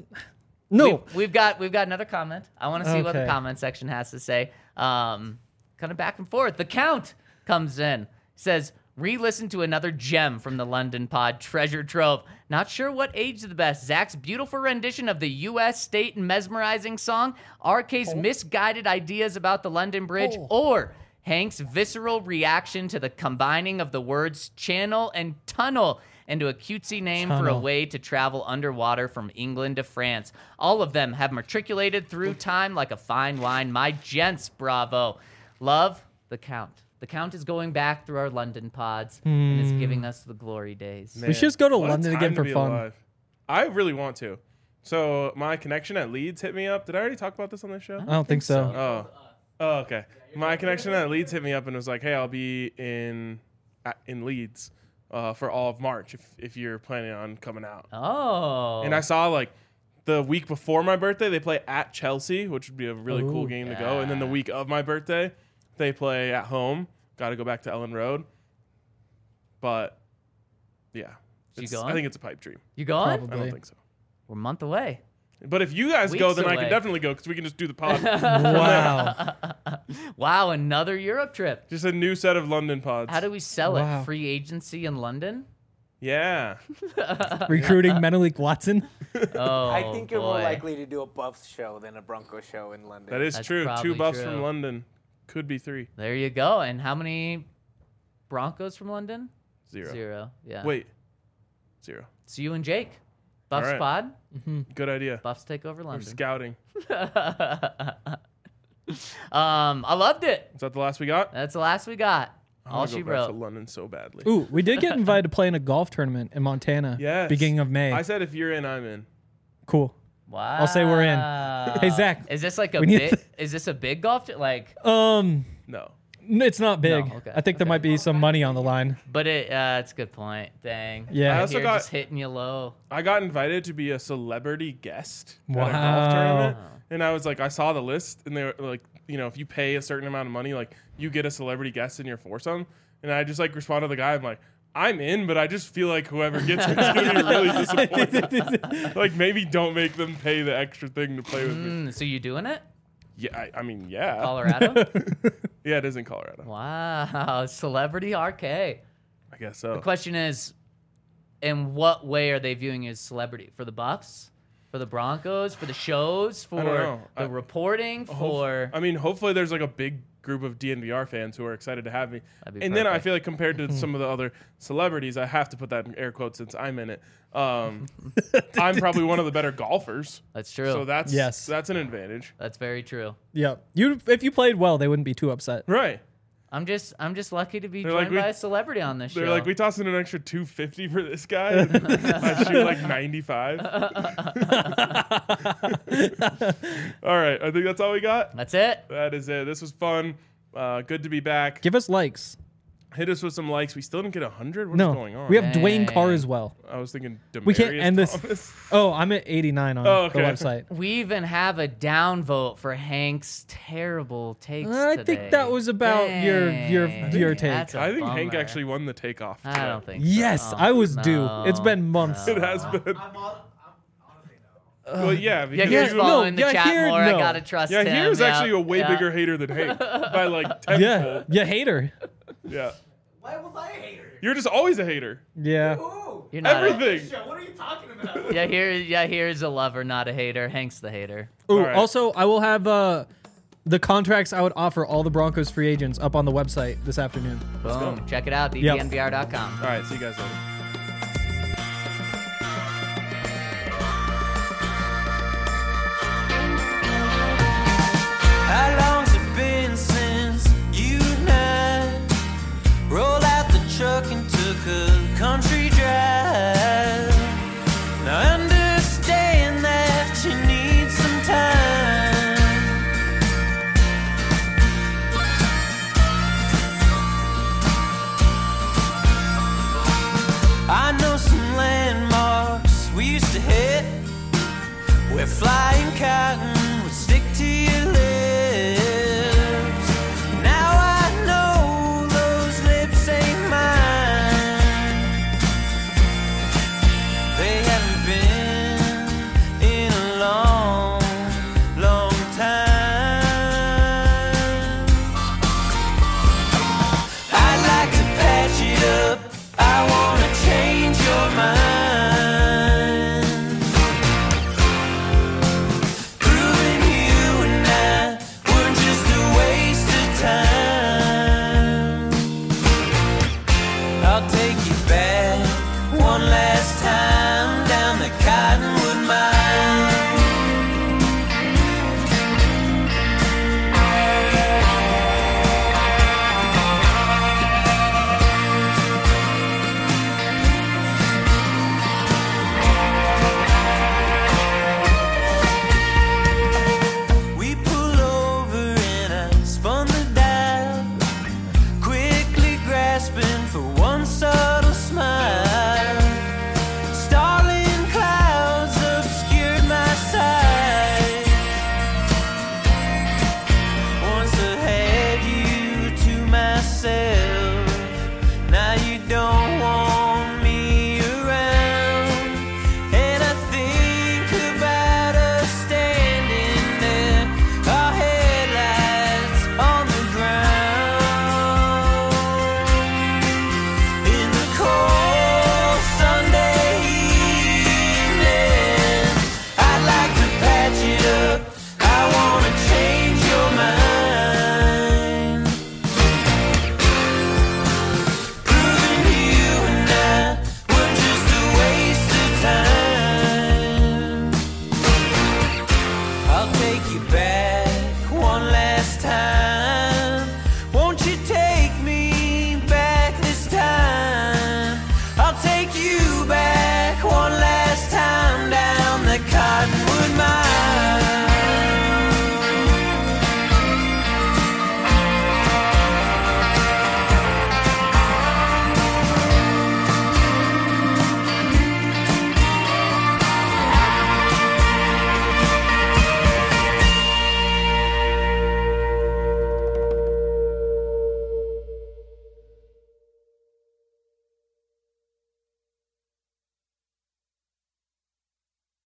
no. We've got another comment. I want to see what the Okay. comment section has to say. Kind of back and forth. The Count comes in, says, re-listen to another gem from the London Pod treasure trove. Not sure what aged the best. Zach's beautiful rendition of the U.S. state and mesmerizing song, RK's misguided ideas about the London Bridge, or Hank's visceral reaction to the combining of the words channel and tunnel into a cutesy name for a Tunnel. way to travel underwater from England to France. All of them have matriculated through time like a fine wine. My gents, bravo. Love, the Count. The Count is going back through our London pods and is giving us the glory days. We should just go to What a London time again to for be fun. alive. I really want to. So my connection at Leeds hit me up. Did I already talk about this on this show? I don't think so. Oh, okay. My connection at Leeds hit me up and was like, "Hey, I'll be in Leeds for all of March if you're planning on coming out." Oh. And I saw like the week before my birthday, they play at Chelsea, which would be a really cool game to go. And then the week of my birthday, they play at home. Got to go back to Ellen Road. But yeah, You It's- going? I think it's a pipe dream. You going? Probably. I don't think so. We're a month away. But if you guys go, Weeks then I away. can definitely go because we can just do the pod. Wow. Wow, another Europe trip. Just a new set of London pods. How do we sell Wow. it? Free agency in London? Yeah. Recruiting Menelik Watson. Oh, I think you're more boy. likely to do a Buffs show than a Broncos show in London. That is That's true. probably 2 buffs true. from London. Could be 3. There you go. And how many Broncos from London? 0. 0. Yeah. Wait. 0. It's you and Jake. Buffs All right. pod. Good idea. Buffs take over We're London. scouting. I loved it. Is that the last we got? That's the last we got. I All wanna she go back to wrote. London so badly. Ooh, we did get invited to play in a golf tournament in Montana. Yes. Beginning of May. I said if you're in, I'm in. Cool. Wow. I'll say we're in. Hey, Zach. Is this like a we need big? Is this a big golf? Like, No, No. it's not big. okay, I think there okay. might be some money on the line. but it's a good point. Dang. Yeah. I I also also got- just hitting you low. I got invited to be a celebrity guest at a Wow. golf tournament. And I was like, I saw the list, and they were like, you know, if you pay a certain amount of money, like, you get a celebrity guest in your foursome. And I just, like, responded to the guy. I'm like, I'm in, but I just feel like whoever gets me is going to be really disappointed. Like, maybe don't make them pay the extra thing to play with me. So you doing it? Yeah, I mean, yeah. Colorado? Yeah, it is in Colorado. Wow. Celebrity RK. I guess so. The question is, in what way are they viewing you as celebrity? For the Buffs? For the Broncos? For the shows? For don't know. the reporting? For I mean, hopefully there's like a big group of DNVR fans who are excited to have me. That'd be And then I perfect. feel like compared to some of the other celebrities, I have to put that in air quotes since I'm in it. I'm probably one of the better golfers. That's true. So that's Yes. that's an advantage. That's very true. Yeah. If you played well, they wouldn't be too upset. Right. I'm just lucky to be They're joined like, by a celebrity on this They're show. like, we toss in an extra $250 for this guy. And I shoot like 95. All right. I think that's all we got. That's it. That is it. This was fun. Good to be back. Give us likes. Hit us with some likes. We still didn't get 100. What's No. going on? We have Dang. Dwayne Carswell. I was thinking Demarius We can't end this. Thomas. Oh, I'm at 89 on Oh, okay. the website. We even have a downvote for Hank's terrible takes I today. think that was about your Dang. take. That's a I think Hank bummer. actually won the takeoff. I today. don't think so. Yes, Oh, I was no, due. It's been months. It has been. I'm honestly no. Well, yeah. Yeah, Because here's you- following the yeah, chat here, more. I no. gotta trust yeah, him. here's yeah, actually a way yeah. bigger hater than Hank by like tenfold. Yeah. You hater. Yeah. Why was I a hater? You're just always a hater. Yeah. Ooh. You're not Everything. What are you talking about? here's a lover, not a hater. Hank's the hater. Ooh, All right. also, I will have the contracts I would offer all the Broncos free agents up on the website this afternoon. Boom. Check it out, Yep. ddnvr.com. All right. See you guys later. How long's it been since you and I rolled out the truck and took a country drive? Now I understand that you need some time. I know some landmarks we used to hit where flying cotton